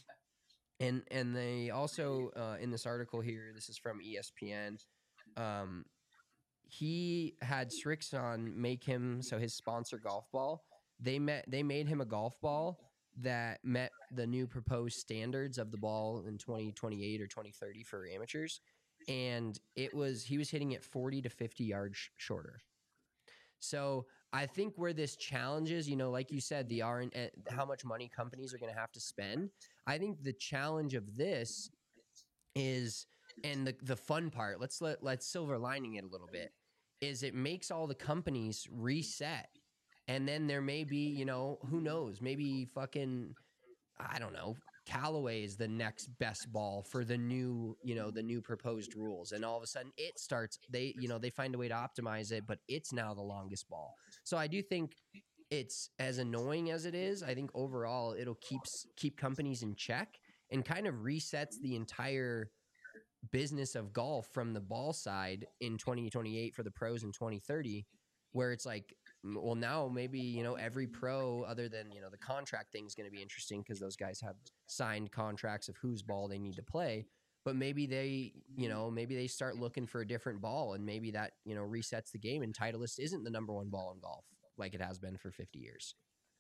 And and they also, uh, in this article here, this is from E S P N, um, he had Srixon make him, so his sponsor golf ball, they met they made him a golf ball that met the new proposed standards of the ball in twenty twenty-eight or twenty thirty for amateurs. And it was he was hitting it forty to fifty yards sh- shorter. So I think where this challenges, you know, like you said, the R and uh, how much money companies are going to have to spend. I think the challenge of this is, and the the fun part, let's let let's silver lining it a little bit, is it makes all the companies reset, and then there may be, you know, who knows, maybe fucking, I don't know, Callaway is the next best ball for the new, you know, the new proposed rules. And all of a sudden it starts, they, you know, they find a way to optimize it, but it's now the longest ball. So I do think it's as annoying as it is. I think overall it'll keep, keep companies in check and kind of resets the entire business of golf from the ball side in twenty twenty-eight for the pros in twenty thirty, where it's like, well, now maybe, you know, every pro other than, you know, the contract thing is going to be interesting because those guys have signed contracts of whose ball they need to play. But maybe they, you know, maybe they start looking for a different ball, and maybe that, you know, resets the game, and Titleist isn't the number one ball in golf like it has been for fifty years.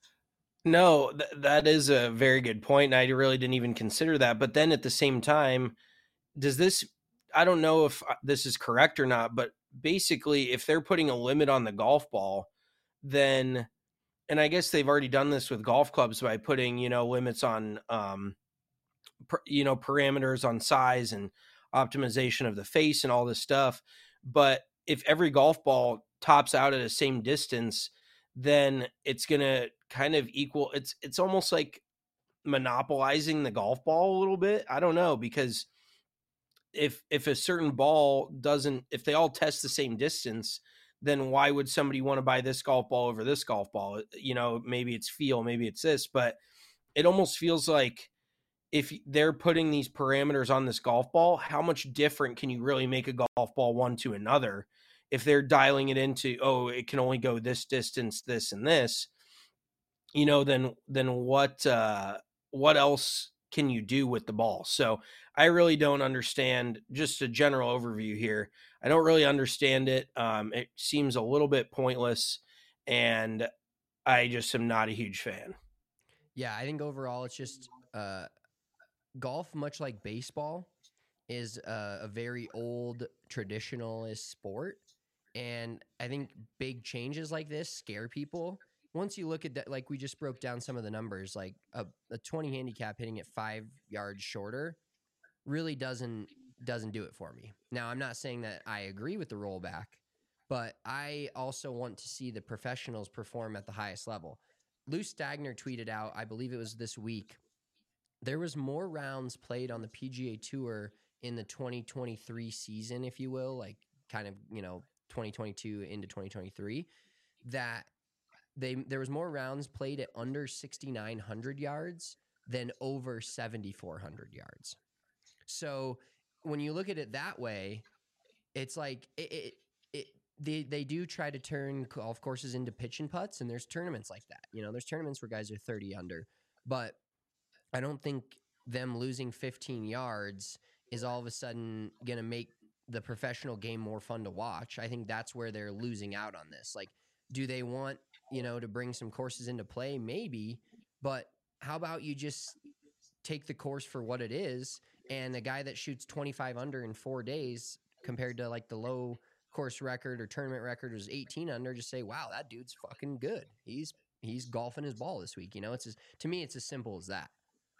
No, th- that is a very good point. And I really didn't even consider that. But then at the same time, does this, I don't know if this is correct or not, but basically if they're putting a limit on the golf ball, then, and I guess they've already done this with golf clubs by putting, you know, limits on, um, per, you know, parameters on size and optimization of the face and all this stuff. But if every golf ball tops out at the same distance, then it's going to kind of equal, it's, it's almost like monopolizing the golf ball a little bit. I don't know, because if, if a certain ball doesn't, if they all test the same distance, then why would somebody want to buy this golf ball over this golf ball? You know, maybe it's feel, maybe it's this, but it almost feels like if they're putting these parameters on this golf ball, how much different can you really make a golf ball one to another? If they're dialing it into, oh, it can only go this distance, this and this, you know, then, then what, uh, what else can you do with the ball? So I really don't understand, just a general overview here. I don't really understand it. Um, it seems a little bit pointless, and I just am not a huge fan. Yeah, I think overall it's just uh, golf, much like baseball, is a, a very old traditionalist sport. And I think big changes like this scare people. Once you look at that, like we just broke down some of the numbers, like a, a twenty handicap hitting it five yards shorter really doesn't doesn't do it for me. Now, I'm not saying that I agree with the rollback, but I also want to see the professionals perform at the highest level. Lou Stagner tweeted out, I believe it was this week, there was more rounds played on the P G A Tour in the twenty twenty-three season, if you will, like kind of, you know, twenty twenty-two into twenty twenty-three, that they there was more rounds played at under sixty-nine hundred yards than over seventy-four hundred yards. So when you look at it that way, it's like it, it, it they they do try to turn golf courses into pitch and putts, and there's tournaments like that. You know, there's tournaments where guys are thirty under, but I don't think them losing fifteen yards is all of a sudden going to make the professional game more fun to watch. I think that's where they're losing out on this. Like, do they want, you know, to bring some courses into play? Maybe, but how about you just take the course for what it is, and a guy that shoots twenty-five under in four days compared to like the low course record or tournament record was eighteen under, just say, wow, that dude's fucking good. He's, he's golfing his ball this week. You know, it's as, to me, it's as simple as that.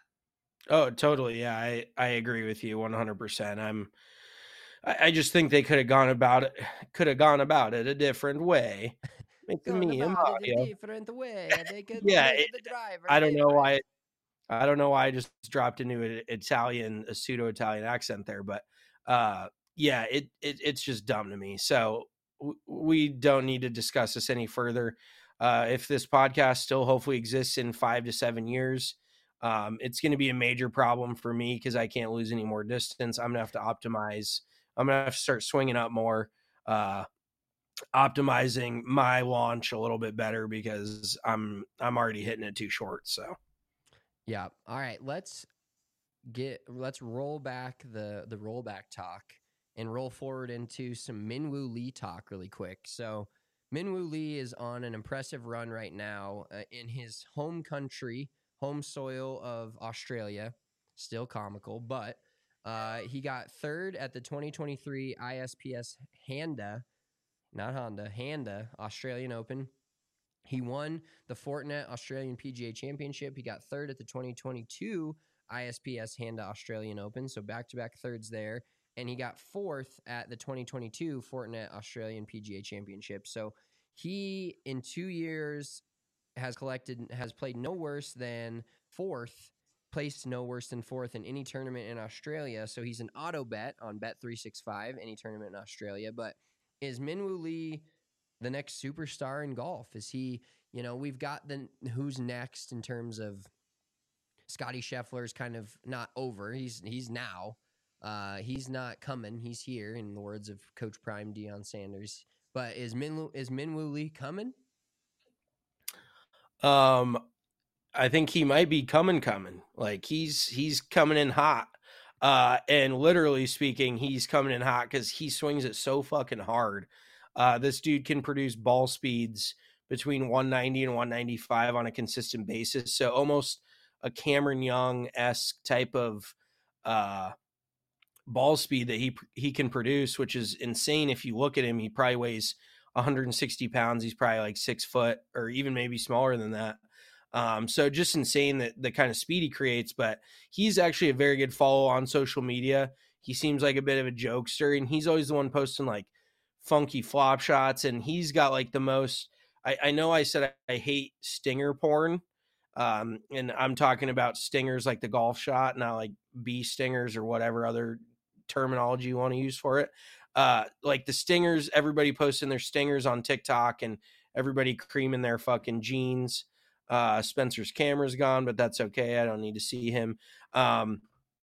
Oh, totally. Yeah. I, I agree with you one hundred percent. I'm, I, I just think they could have gone about it, could have gone about it a different way. Make the medium audio. A different way. They could yeah. make It, the driver I don't know different. why. I don't know why I just dropped into an Italian, a pseudo Italian accent there, but uh, yeah, it, it it's just dumb to me. So w- we don't need to discuss this any further. Uh, if this podcast still hopefully exists in five to seven years, um, it's going to be a major problem for me because I can't lose any more distance. I'm going to have to optimize. I'm going to have to start swinging up more. Uh, optimizing my launch a little bit better because I'm I'm already hitting it too short. So yeah. All right, let's get let's roll back the the rollback talk and roll forward into some Minwoo Lee talk really quick. So Minwoo Lee is on an impressive run right now uh, in his home country, home soil of Australia. Still comical, but uh, he got third at the twenty twenty-three I S P S Handa, not Honda, Handa Australian Open. He won the Fortinet Australian P G A Championship. He got third at the twenty twenty-two I S P S Handa Australian Open, so back-to-back thirds there. And he got fourth at the twenty twenty-two Fortinet Australian P G A Championship. So he, in two years, has collected, has played no worse than fourth, placed no worse than fourth in any tournament in Australia. So he's an auto bet on Bet three sixty-five, any tournament in Australia. But is Minwoo Lee the next superstar in golf? Is he, you know, we've got the who's next in terms of Scotty Scheffler's kind of not over. He's he's now. Uh, he's not coming. He's here, in the words of Coach Prime Deion Sanders. But is Minwoo is Minwoo Lee coming? Um, I think he might be coming, coming. Like he's he's coming in hot. Uh, and literally speaking, he's coming in hot because he swings it so fucking hard. Uh, this dude can produce ball speeds between one ninety and one ninety-five on a consistent basis. So almost a Cameron Young-esque type of uh, ball speed that he he can produce, which is insane. If you look at him, he probably weighs one hundred sixty pounds. He's probably like six foot or even maybe smaller than that. Um, so just insane that the kind of speed he creates, but he's actually a very good follow on social media. He seems like a bit of a jokester, and he's always the one posting like funky flop shots. And he's got like the most, I, I know I said I, I hate stinger porn. Um, and I'm talking about stingers like the golf shot, not like bee stingers or whatever other terminology you want to use for it. Uh, like the stingers, everybody posting their stingers on TikTok and everybody creaming their fucking jeans. Uh, Spencer's camera's gone, but that's okay. I don't need to see him. Um,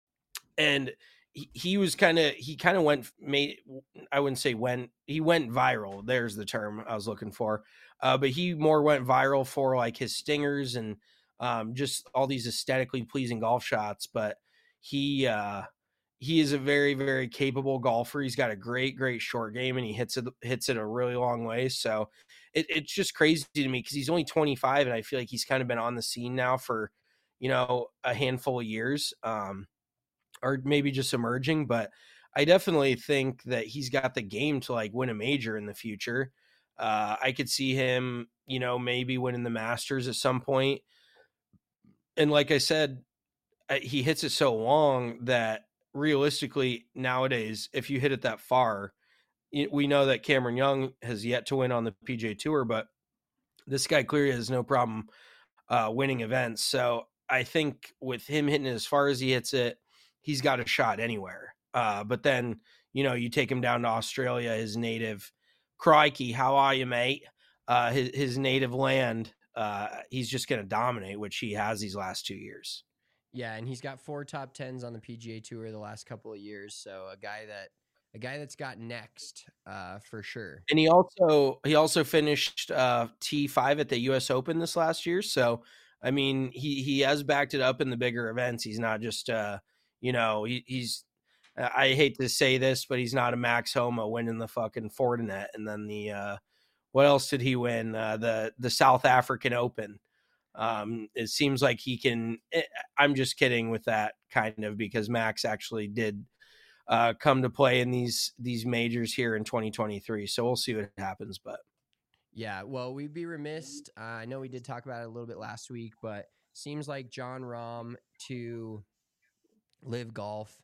and he, he was kind of, he kind of went, made, I wouldn't say went, he went viral. There's the term I was looking for. Uh, but he more went viral for like his stingers and um, just all these aesthetically pleasing golf shots. But he, uh, he is a very, very capable golfer. He's got a great, great short game, and he hits it, hits it a really long way. So it, it's just crazy to me because he's only twenty-five, and I feel like he's kind of been on the scene now for, you know, a handful of years, um, or maybe just emerging. But I definitely think that he's got the game to like win a major in the future. Uh, I could see him, you know, maybe winning the Masters at some point. And like I said, he hits it so long that realistically nowadays, if you hit it that far, we know that Cameron Young has yet to win on the P G A Tour, but this guy clearly has no problem uh, winning events. So I think with him hitting it as far as he hits it, he's got a shot anywhere. Uh, but then, you know, you take him down to Australia, his native, crikey, how are you, mate? Uh, his, his native land, uh, he's just going to dominate, which he has these last two years. Yeah, and he's got four top tens on the P G A Tour the last couple of years. So a guy that a guy that's got next uh, for sure. And he also he also finished uh, T five at the U S Open this last year. So I mean, he he has backed it up in the bigger events. He's not just uh, you know he, he's I hate to say this, but he's not a Max Homa winning the fucking Fortinet and then the uh, what else did he win uh, the the South African Open. Um, it seems like he can, I'm just kidding with that kind of, because Max actually did uh, come to play in these, these majors here in twenty twenty-three. So we'll see what happens, but yeah, well, we'd be remiss. Uh, I know we did talk about it a little bit last week, but seems like Jon Rahm to Live Golf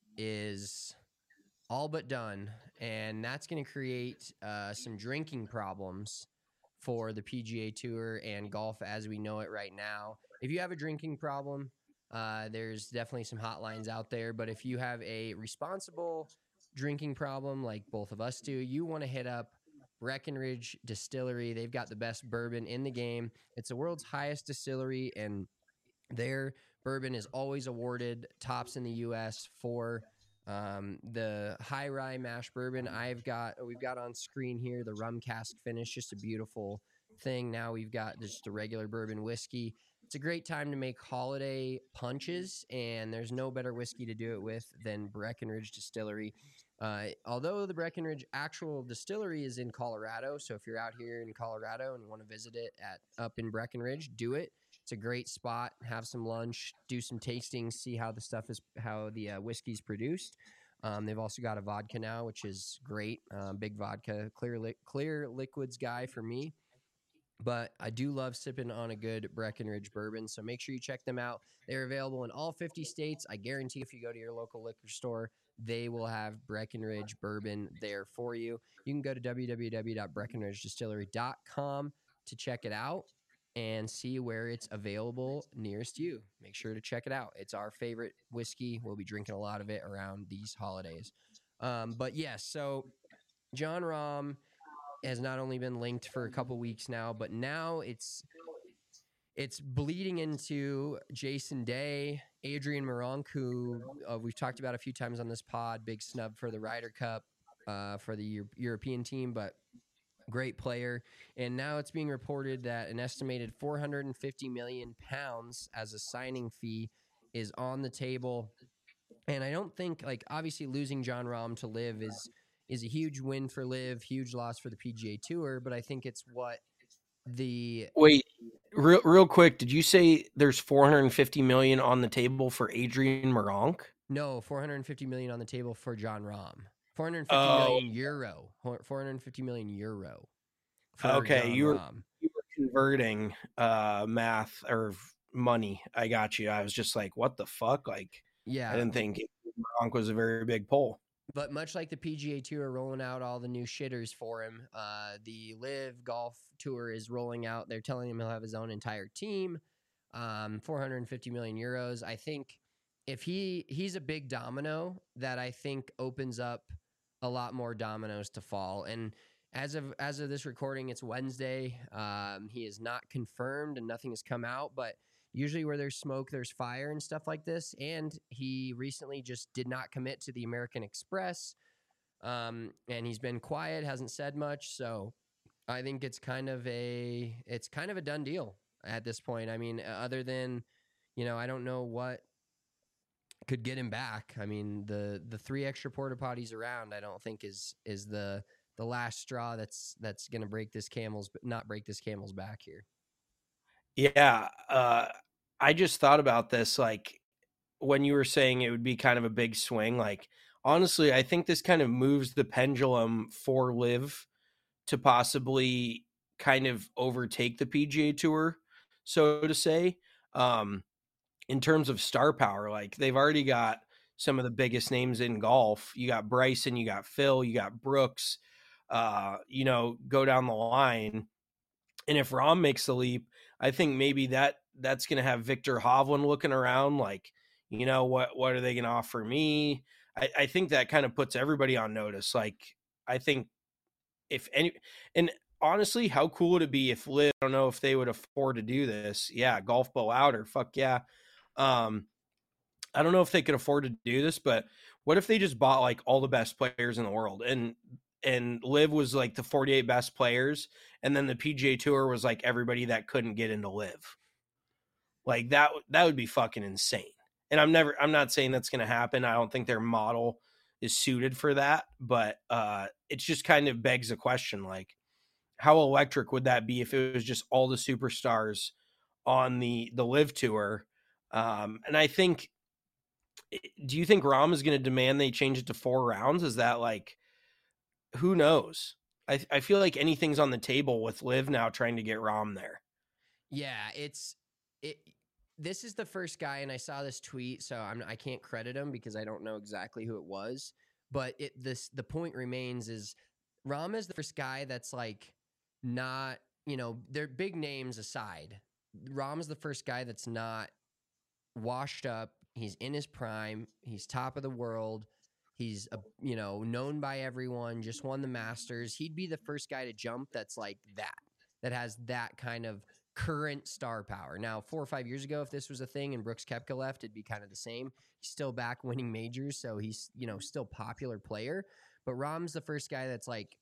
is all but done. And that's going to create uh, some drinking problems for the P G A Tour and golf as we know it right now. If you have a drinking problem, uh, there's definitely some hotlines out there. But if you have a responsible drinking problem like both of us do, you want to hit up Breckenridge Distillery. They've got the best bourbon in the game. It's the world's highest distillery, and their bourbon is always awarded tops in the U S for Um, the high rye mash bourbon I've got, we've got on screen here, the rum cask finish, just a beautiful thing. Now we've got just a regular bourbon whiskey. It's a great time to make holiday punches, and there's no better whiskey to do it with than Breckenridge Distillery. Uh, although the Breckenridge actual distillery is in Colorado, so if you're out here in Colorado and you want to visit it at up in Breckenridge, do it. It's a great spot. Have some lunch, do some tastings, see how the stuff is, how the uh, whiskey's produced. Um, they've also got a vodka now, which is great. Um, big vodka, clear, li- clear liquids guy for me. But I do love sipping on a good Breckenridge bourbon, so make sure you check them out. They're available in all fifty states. I guarantee if you go to your local liquor store, they will have Breckenridge bourbon there for you. You can go to w w w dot breckenridge distillery dot com to check it out and see where it's available nearest you. Make sure to check it out. It's our favorite whiskey. We'll be drinking a lot of it around these holidays. Um, but yes, so Jon Rahm has not only been linked for a couple weeks now, but now it's it's bleeding into Jason Day, Adrian Meronk, who uh, we've talked about a few times on this pod, big snub for the Ryder Cup uh, for the Euro- European team, but great player. And now it's being reported that an estimated four hundred fifty million pounds as a signing fee is on the table. And I don't think, like, obviously losing Jon Rahm to Liv is is a huge win for Liv, huge loss for the P G A Tour, but I think it's what the Wait, real real quick, did you say there's four hundred fifty million on the table for Adrian Meronk? No, four hundred fifty million on the table for Jon Rahm. four hundred fifty Oh. million euro. four hundred fifty million euro. For Okay, Jon you were, Rahm. you were converting uh, math or money. I got you. I was just like, what the fuck? Like, Yeah. I didn't think Meronk was a very big pull. But much like the P G A Tour rolling out all the new shitters for him, uh, the Live Golf Tour is rolling out. They're telling him he'll have his own entire team. Um, four hundred fifty million euros. I think if he he's a big domino that I think opens up a lot more dominoes to fall. And as of as of this recording, it's Wednesday. Um, he is not confirmed and nothing has come out, but usually where there's smoke, there's fire and stuff like this. And he recently just did not commit to the American Express. Um, and he's been quiet, hasn't said much. So I think it's kind of a, it's kind of a done deal at this point. I mean, other than, you know, I don't know what could get him back. I mean, the, the three extra porta potties around, I don't think is, is the, the last straw that's, that's going to break this camel's, but not break this camel's back here. Yeah, uh, I just thought about this, like, when you were saying it would be kind of a big swing. Like, honestly, I think this kind of moves the pendulum for Liv to possibly kind of overtake the P G A Tour, so to say, um, in terms of star power. Like, they've already got some of the biggest names in golf. You got Bryson, you got Phil, you got Brooks, uh, you know, go down the line. And if Rahm makes the leap, I think maybe that that's going to have Victor Hovland looking around like, you know, what, what are they going to offer me? I, I think that kind of puts everybody on notice. Like, I think if any, and honestly, how cool would it be if Liv, I don't know if they would afford to do this. Yeah. Golf bow out or fuck yeah. Um, I don't know if they could afford to do this, but what if they just bought like all the best players in the world and, and Liv was like the forty-eight best players. And then the P G A Tour was like everybody that couldn't get into Liv. Like that, that would be fucking insane. And I'm never, I'm not saying that's going to happen. I don't think their model is suited for that, but uh, it just kind of begs the question, like, how electric would that be if it was just all the superstars on the, the Liv Tour? Um, and I think, do you think Rahm is going to demand they change it to four rounds? Is that like, who knows? I, I feel like anything's on the table with Liv now trying to get Rahm there. Yeah, it's it. This is the first guy, and I saw this tweet, so I'm I can't credit him because I don't know exactly who it was. But it this the point remains is Rahm is the first guy that's like not, you know, they're big names aside. Rahm's the first guy that's not washed up. He's in his prime. He's top of the world. He's, a, you know, known by everyone, just won the Masters. He'd be the first guy to jump that's like that, that has that kind of current star power. Now, four or five years ago, if this was a thing and Brooks Koepka left, it'd be kind of the same. He's still back winning majors, so he's, you know, still popular player. But Rahm's the first guy that's like,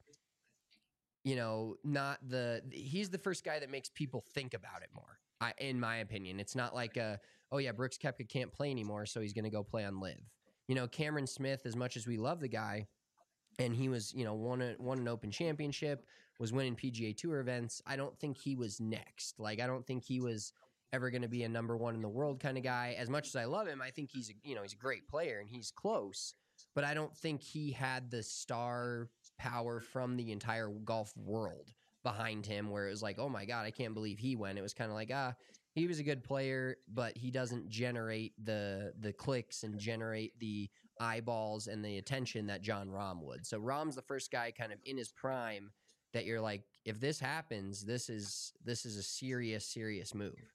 you know, not the – he's the first guy that makes people think about it more, I, in my opinion. It's not like, a, oh, yeah, Brooks Koepka can't play anymore, so he's going to go play on Live. You know, Cameron Smith, as much as we love the guy, and he was, you know, won, a, won an Open Championship, was winning P G A Tour events, I don't think he was next. Like, I don't think he was ever going to be a number one in the world kind of guy. As much as I love him, I think he's, a, you know, he's a great player and he's close. But I don't think he had the star power from the entire golf world behind him where it was like, oh my God, I can't believe he went. It was kind of like, ah, he was a good player, but he doesn't generate the the clicks and generate the eyeballs and the attention that Jon Rahm would. So Rahm's the first guy kind of in his prime that you're like, if this happens, this is this is a serious, serious move.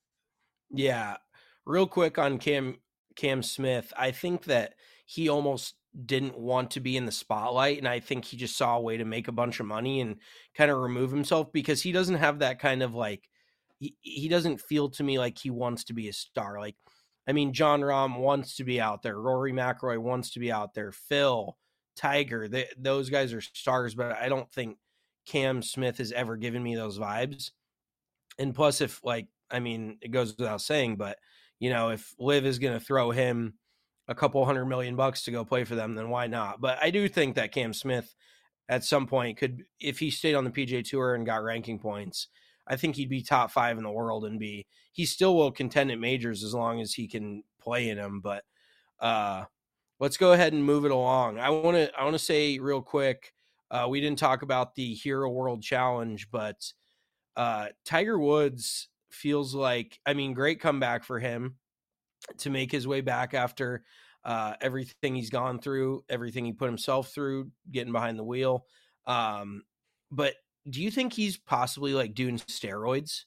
Yeah. Real quick on Cam Cam Smith, I think that he almost didn't want to be in the spotlight, and I think he just saw a way to make a bunch of money and kind of remove himself because he doesn't have that kind of like he, he doesn't feel to me like he wants to be a star. Like, I mean, Jon Rahm wants to be out there. Rory McIlroy wants to be out there. Phil, Tiger, they, those guys are stars, but I don't think Cam Smith has ever given me those vibes. And plus, if like, I mean, it goes without saying, but you know, if Liv is going to throw him a couple hundred million bucks to go play for them, then why not? But I do think that Cam Smith at some point could, if he stayed on the P G A Tour and got ranking points, I think he'd be top five in the world and be, he still will contend at majors as long as he can play in them. But uh, let's go ahead and move it along. I want to, I want to say real quick, uh, we didn't talk about the Hero World Challenge, but uh, Tiger Woods feels like, I mean, great comeback for him to make his way back after uh, everything he's gone through, everything he put himself through, getting behind the wheel. Um, but do you think he's possibly like doing steroids?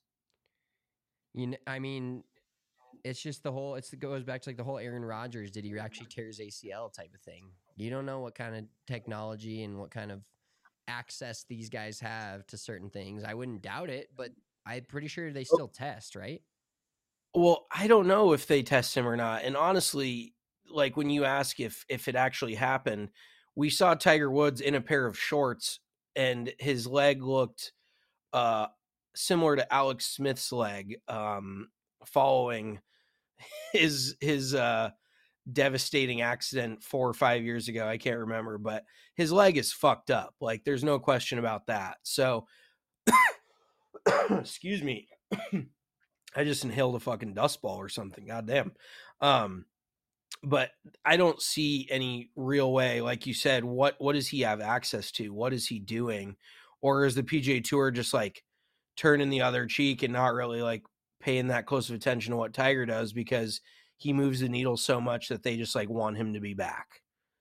You know, I mean, it's just the whole, it's, it goes back to like the whole Aaron Rodgers, did he actually tear his A C L type of thing? You don't know what kind of technology and what kind of access these guys have to certain things. I wouldn't doubt it, but I'm pretty sure they still test, right? Well, I don't know if they test him or not. And honestly, like when you ask if if it actually happened, we saw Tiger Woods in a pair of shorts and his leg looked uh, similar to Alex Smith's leg um, following his his uh, devastating accident four or five years ago. I can't remember, but his leg is fucked up. Like there's no question about that. So excuse me. I just inhaled a fucking dust ball or something. Goddamn. Um, but I don't see any real way. Like you said, what, what does he have access to? What is he doing? Or is the P G A Tour just like turning the other cheek and not really like paying that close of attention to what Tiger does because he moves the needle so much that they just like want him to be back?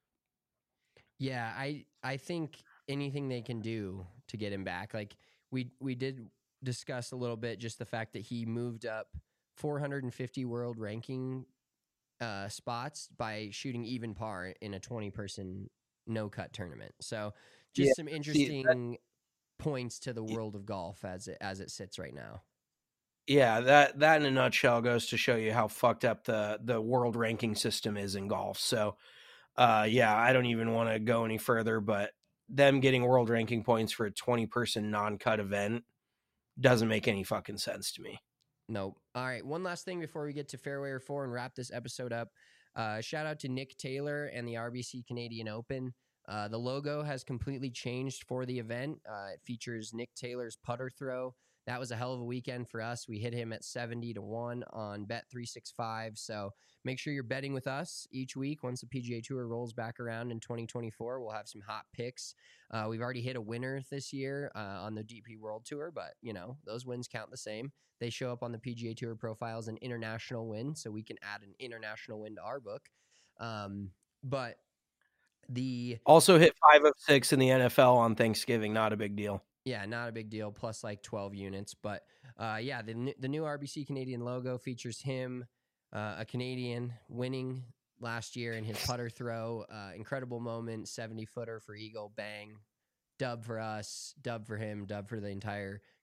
Yeah, I I think anything they can do to get him back. Like we we did discuss a little bit just the fact that he moved up four hundred fifty world ranking uh, spots by shooting even par in a twenty person no cut tournament. So just yeah, some interesting see, that, points to the world of golf as it as it sits right now. Yeah, that that in a nutshell goes to show you how fucked up the the world ranking system is in golf. So uh, yeah, I don't even want to go any further, but them getting world ranking points for a twenty person non-cut event doesn't make any fucking sense to me. Nope. All right. One last thing before we get to Fairway or Four and wrap this episode up. Uh, shout out to Nick Taylor and the R B C Canadian Open. Uh, the logo has completely changed for the event. Uh, it features Nick Taylor's putter throw. That was a hell of a weekend for us. We hit him at seventy to one on Bet three sixty-five. So make sure you're betting with us each week. Once the P G A Tour rolls back around in twenty twenty-four, we'll have some hot picks. Uh, we've already hit a winner this year uh, on the D P World Tour, but, you know, those wins count the same. They show up on the P G A Tour profile as an international win, so we can add an international win to our book. Um, but the... Also hit five of six in the N F L on Thanksgiving. Not a big deal. Yeah, not a big deal, plus like twelve units. But uh, yeah, the, the new R B C Canadian logo features him, uh, a Canadian, winning last year in his putter throw. Uh, incredible moment, seventy-footer for Eagle, bang. Dub for us, dub for him, dub for the entire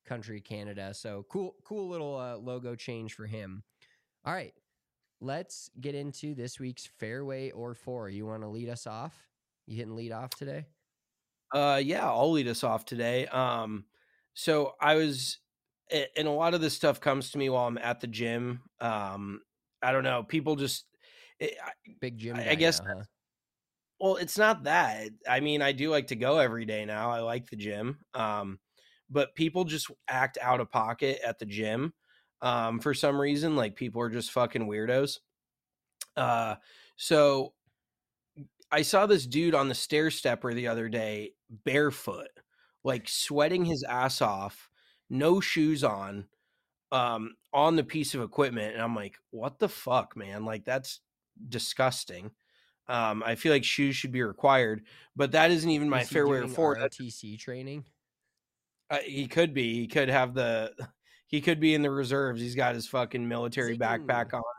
country, Canada. So cool, cool little uh, logo change for him. All right, let's get into this week's Fairway or Four. You want to lead us off? You hitting lead off today? Uh, yeah, I'll lead us off today. Um, so I was, and a lot of this stuff comes to me while I'm at the gym. Um, I don't know, people just it, big gym. I, I guess. Now, huh? Well, it's not that. I mean, I do like to go every day now. I like the gym. Um, but people just act out of pocket at the gym. Um, for some reason, like people are just fucking weirdos. Uh, so I saw this dude on the stair stepper the other day, barefoot, like sweating his ass off, no shoes on, um, on the piece of equipment. And I'm like, what the fuck, man? Like, that's disgusting. Um, I feel like shoes should be required, but that isn't even my Fairway or Four. R O T C training. Uh, he could be. He could have the. He could be in the reserves. He's got his fucking military Zing. backpack on.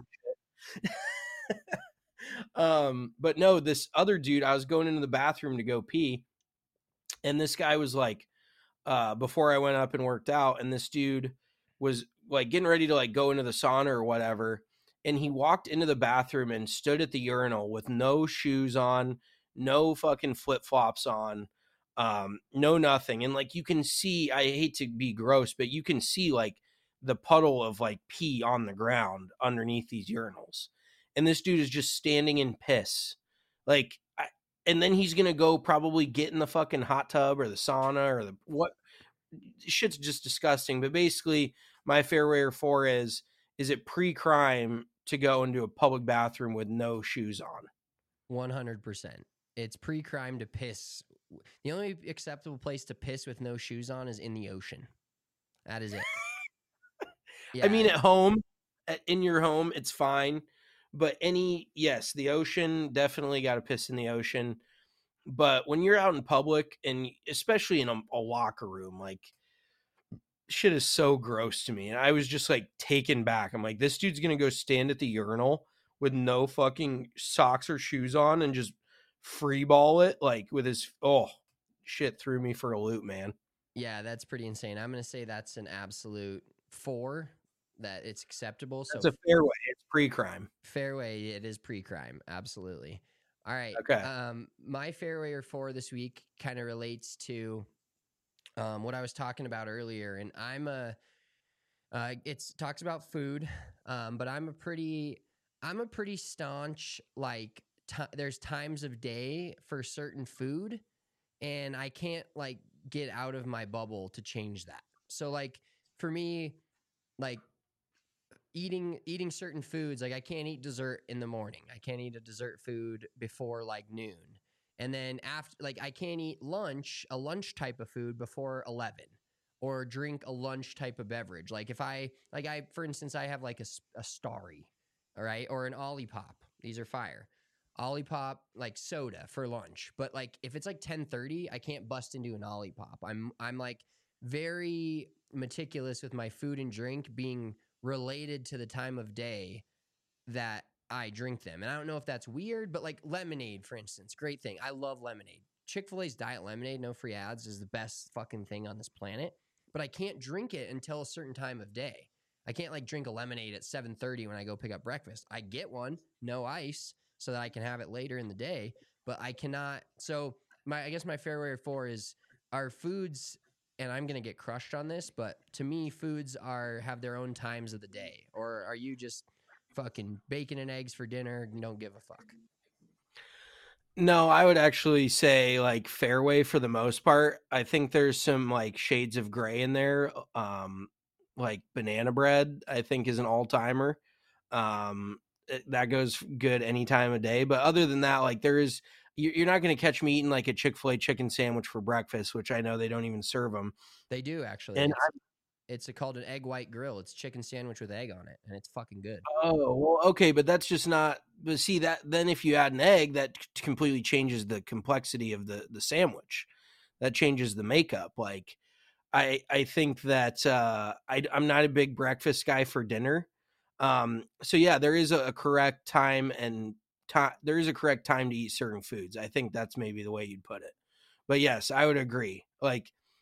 um, but no, this other dude. I was going into the bathroom to go pee, and this guy was like, uh, before I went up and worked out, and this dude was like getting ready to like go into the sauna or whatever. And he walked into the bathroom and stood at the urinal with no shoes on, no fucking flip-flops on, um, no nothing. And like you can see, I hate to be gross, but you can see like the puddle of like pee on the ground underneath these urinals. And this dude is just standing in piss. Like, I, and then he's going to go probably get in the fucking hot tub or the sauna or the what. Shit's just disgusting. But basically, my Fairway or Four is, is it pre-crime to go into a public bathroom with no shoes on? one hundred percent. It's pre-crime to piss. The only acceptable place to piss with no shoes on is in the ocean. That is it. Yeah. I mean, at home, in your home, it's fine. But any, yes, the ocean, definitely got to piss in the ocean. But when you're out in public, and especially in a, a locker room, like, shit is so gross to me. And I was just like taken back. I'm like, this dude's gonna go stand at the urinal with no fucking socks or shoes on and just free ball it like with his oh shit threw me for a loop, man. Yeah, that's pretty insane. I'm gonna say that's an absolute four, that it's acceptable. So it's a fairway, it's pre-crime. Fairway, it is pre-crime, absolutely. All right. Okay. Um, my Fairway or Four this week kind of relates to Um, what I was talking about earlier, and I'm a, uh, it's talks about food, um, but I'm a pretty, I'm a pretty staunch, like, t- there's times of day for certain food, and I can't, like, get out of my bubble to change that. So, like, for me, like, eating, eating certain foods, like, I can't eat dessert in the morning. I can't eat a dessert food before, like, noon. And then after, like, I can't eat lunch, a lunch type of food before eleven, or drink a lunch type of beverage. Like if I, like I, for instance, I have like a, a Starry, all right, or an Olipop. These are fire. Olipop, like soda for lunch. But like if it's like ten thirty, I can't bust into an Olipop. I'm, I'm like very meticulous with my food and drink being related to the time of day that I drink them. And I don't know if that's weird, but like lemonade, for instance, great thing. I love lemonade. Chick-fil-A's diet lemonade, no free ads, is the best fucking thing on this planet. But I can't drink it until a certain time of day. I can't like drink a lemonade at seven thirty when I go pick up breakfast. I get one, no ice, so that I can have it later in the day. But I cannot. So my, I guess my Fairway or Four is our foods, and I'm gonna get crushed on this, but to me, foods are have their own times of the day. Or are you just fucking bacon and eggs for dinner and don't give a fuck? No, I would actually say like Fairway for the most part. I think there's some like shades of gray in there. Um, like banana bread, I think is an all timer. Um, that goes good any time of day. But other than that, like there is, you're not going to catch me eating like a Chick-fil-A chicken sandwich for breakfast, which I know they don't even serve them. They do actually. And It's a, called an egg white grill. It's chicken sandwich with egg on it, and it's fucking good. Oh, well, okay, but that's just not. But see that then if you add an egg, that completely changes the complexity of the the sandwich. That changes the makeup. Like, I I think that uh, I I'm not a big breakfast guy for dinner. Um, so yeah, there is a, a correct time and time. There is a correct time to eat certain foods. I think that's maybe the way you'd put it. But yes, I would agree. Like,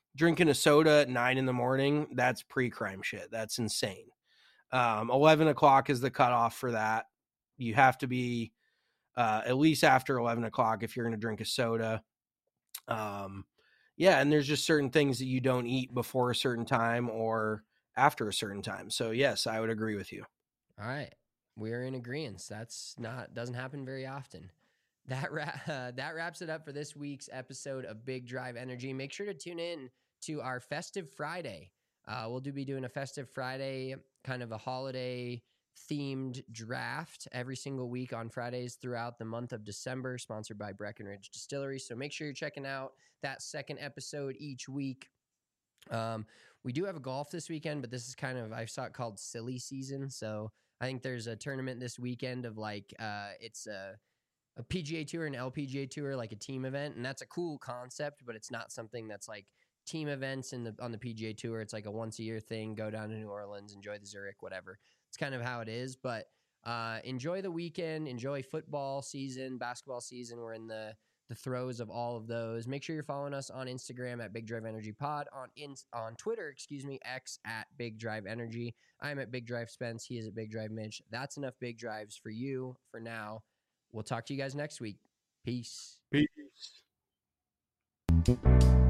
drinking a soda at nine in the morning, that's pre-crime shit. That's insane. Um, eleven o'clock is the cutoff for that. You have to be uh, at least after eleven o'clock if you're going to drink a soda. Um, yeah, and there's just certain things that you don't eat before a certain time or after a certain time. So yes, I would agree with you. All right, we're in agreement. That's not doesn't happen very often. That ra- uh, that wraps it up for this week's episode of Big Drive Energy. Make sure to tune in to our Festive Friday. Uh, we'll do be doing a Festive Friday, kind of a holiday themed draft every single week on Fridays throughout the month of December, sponsored by Breckenridge Distillery. So make sure you're checking out that second episode each week. Um, we do have a golf this weekend, but this is kind of, I saw it called silly season. So I think there's a tournament this weekend of like, uh, it's a, a P G A Tour and L P G A Tour, like a team event. And that's a cool concept, but it's not something that's like team events in the on the P G A Tour. It's like a once a year thing. Go down to New Orleans, enjoy the Zurich, whatever. It's kind of how it is. But uh, enjoy the weekend. Enjoy football season, basketball season. We're in the the throes of all of those. Make sure you're following us on Instagram at Big Drive Energy Pod, on in, on Twitter, excuse me, X at Big Drive Energy. I'm at Big Drive Spence. He is at Big Drive Mitch. That's enough big drives for you for now. We'll talk to you guys next week. Peace. Peace.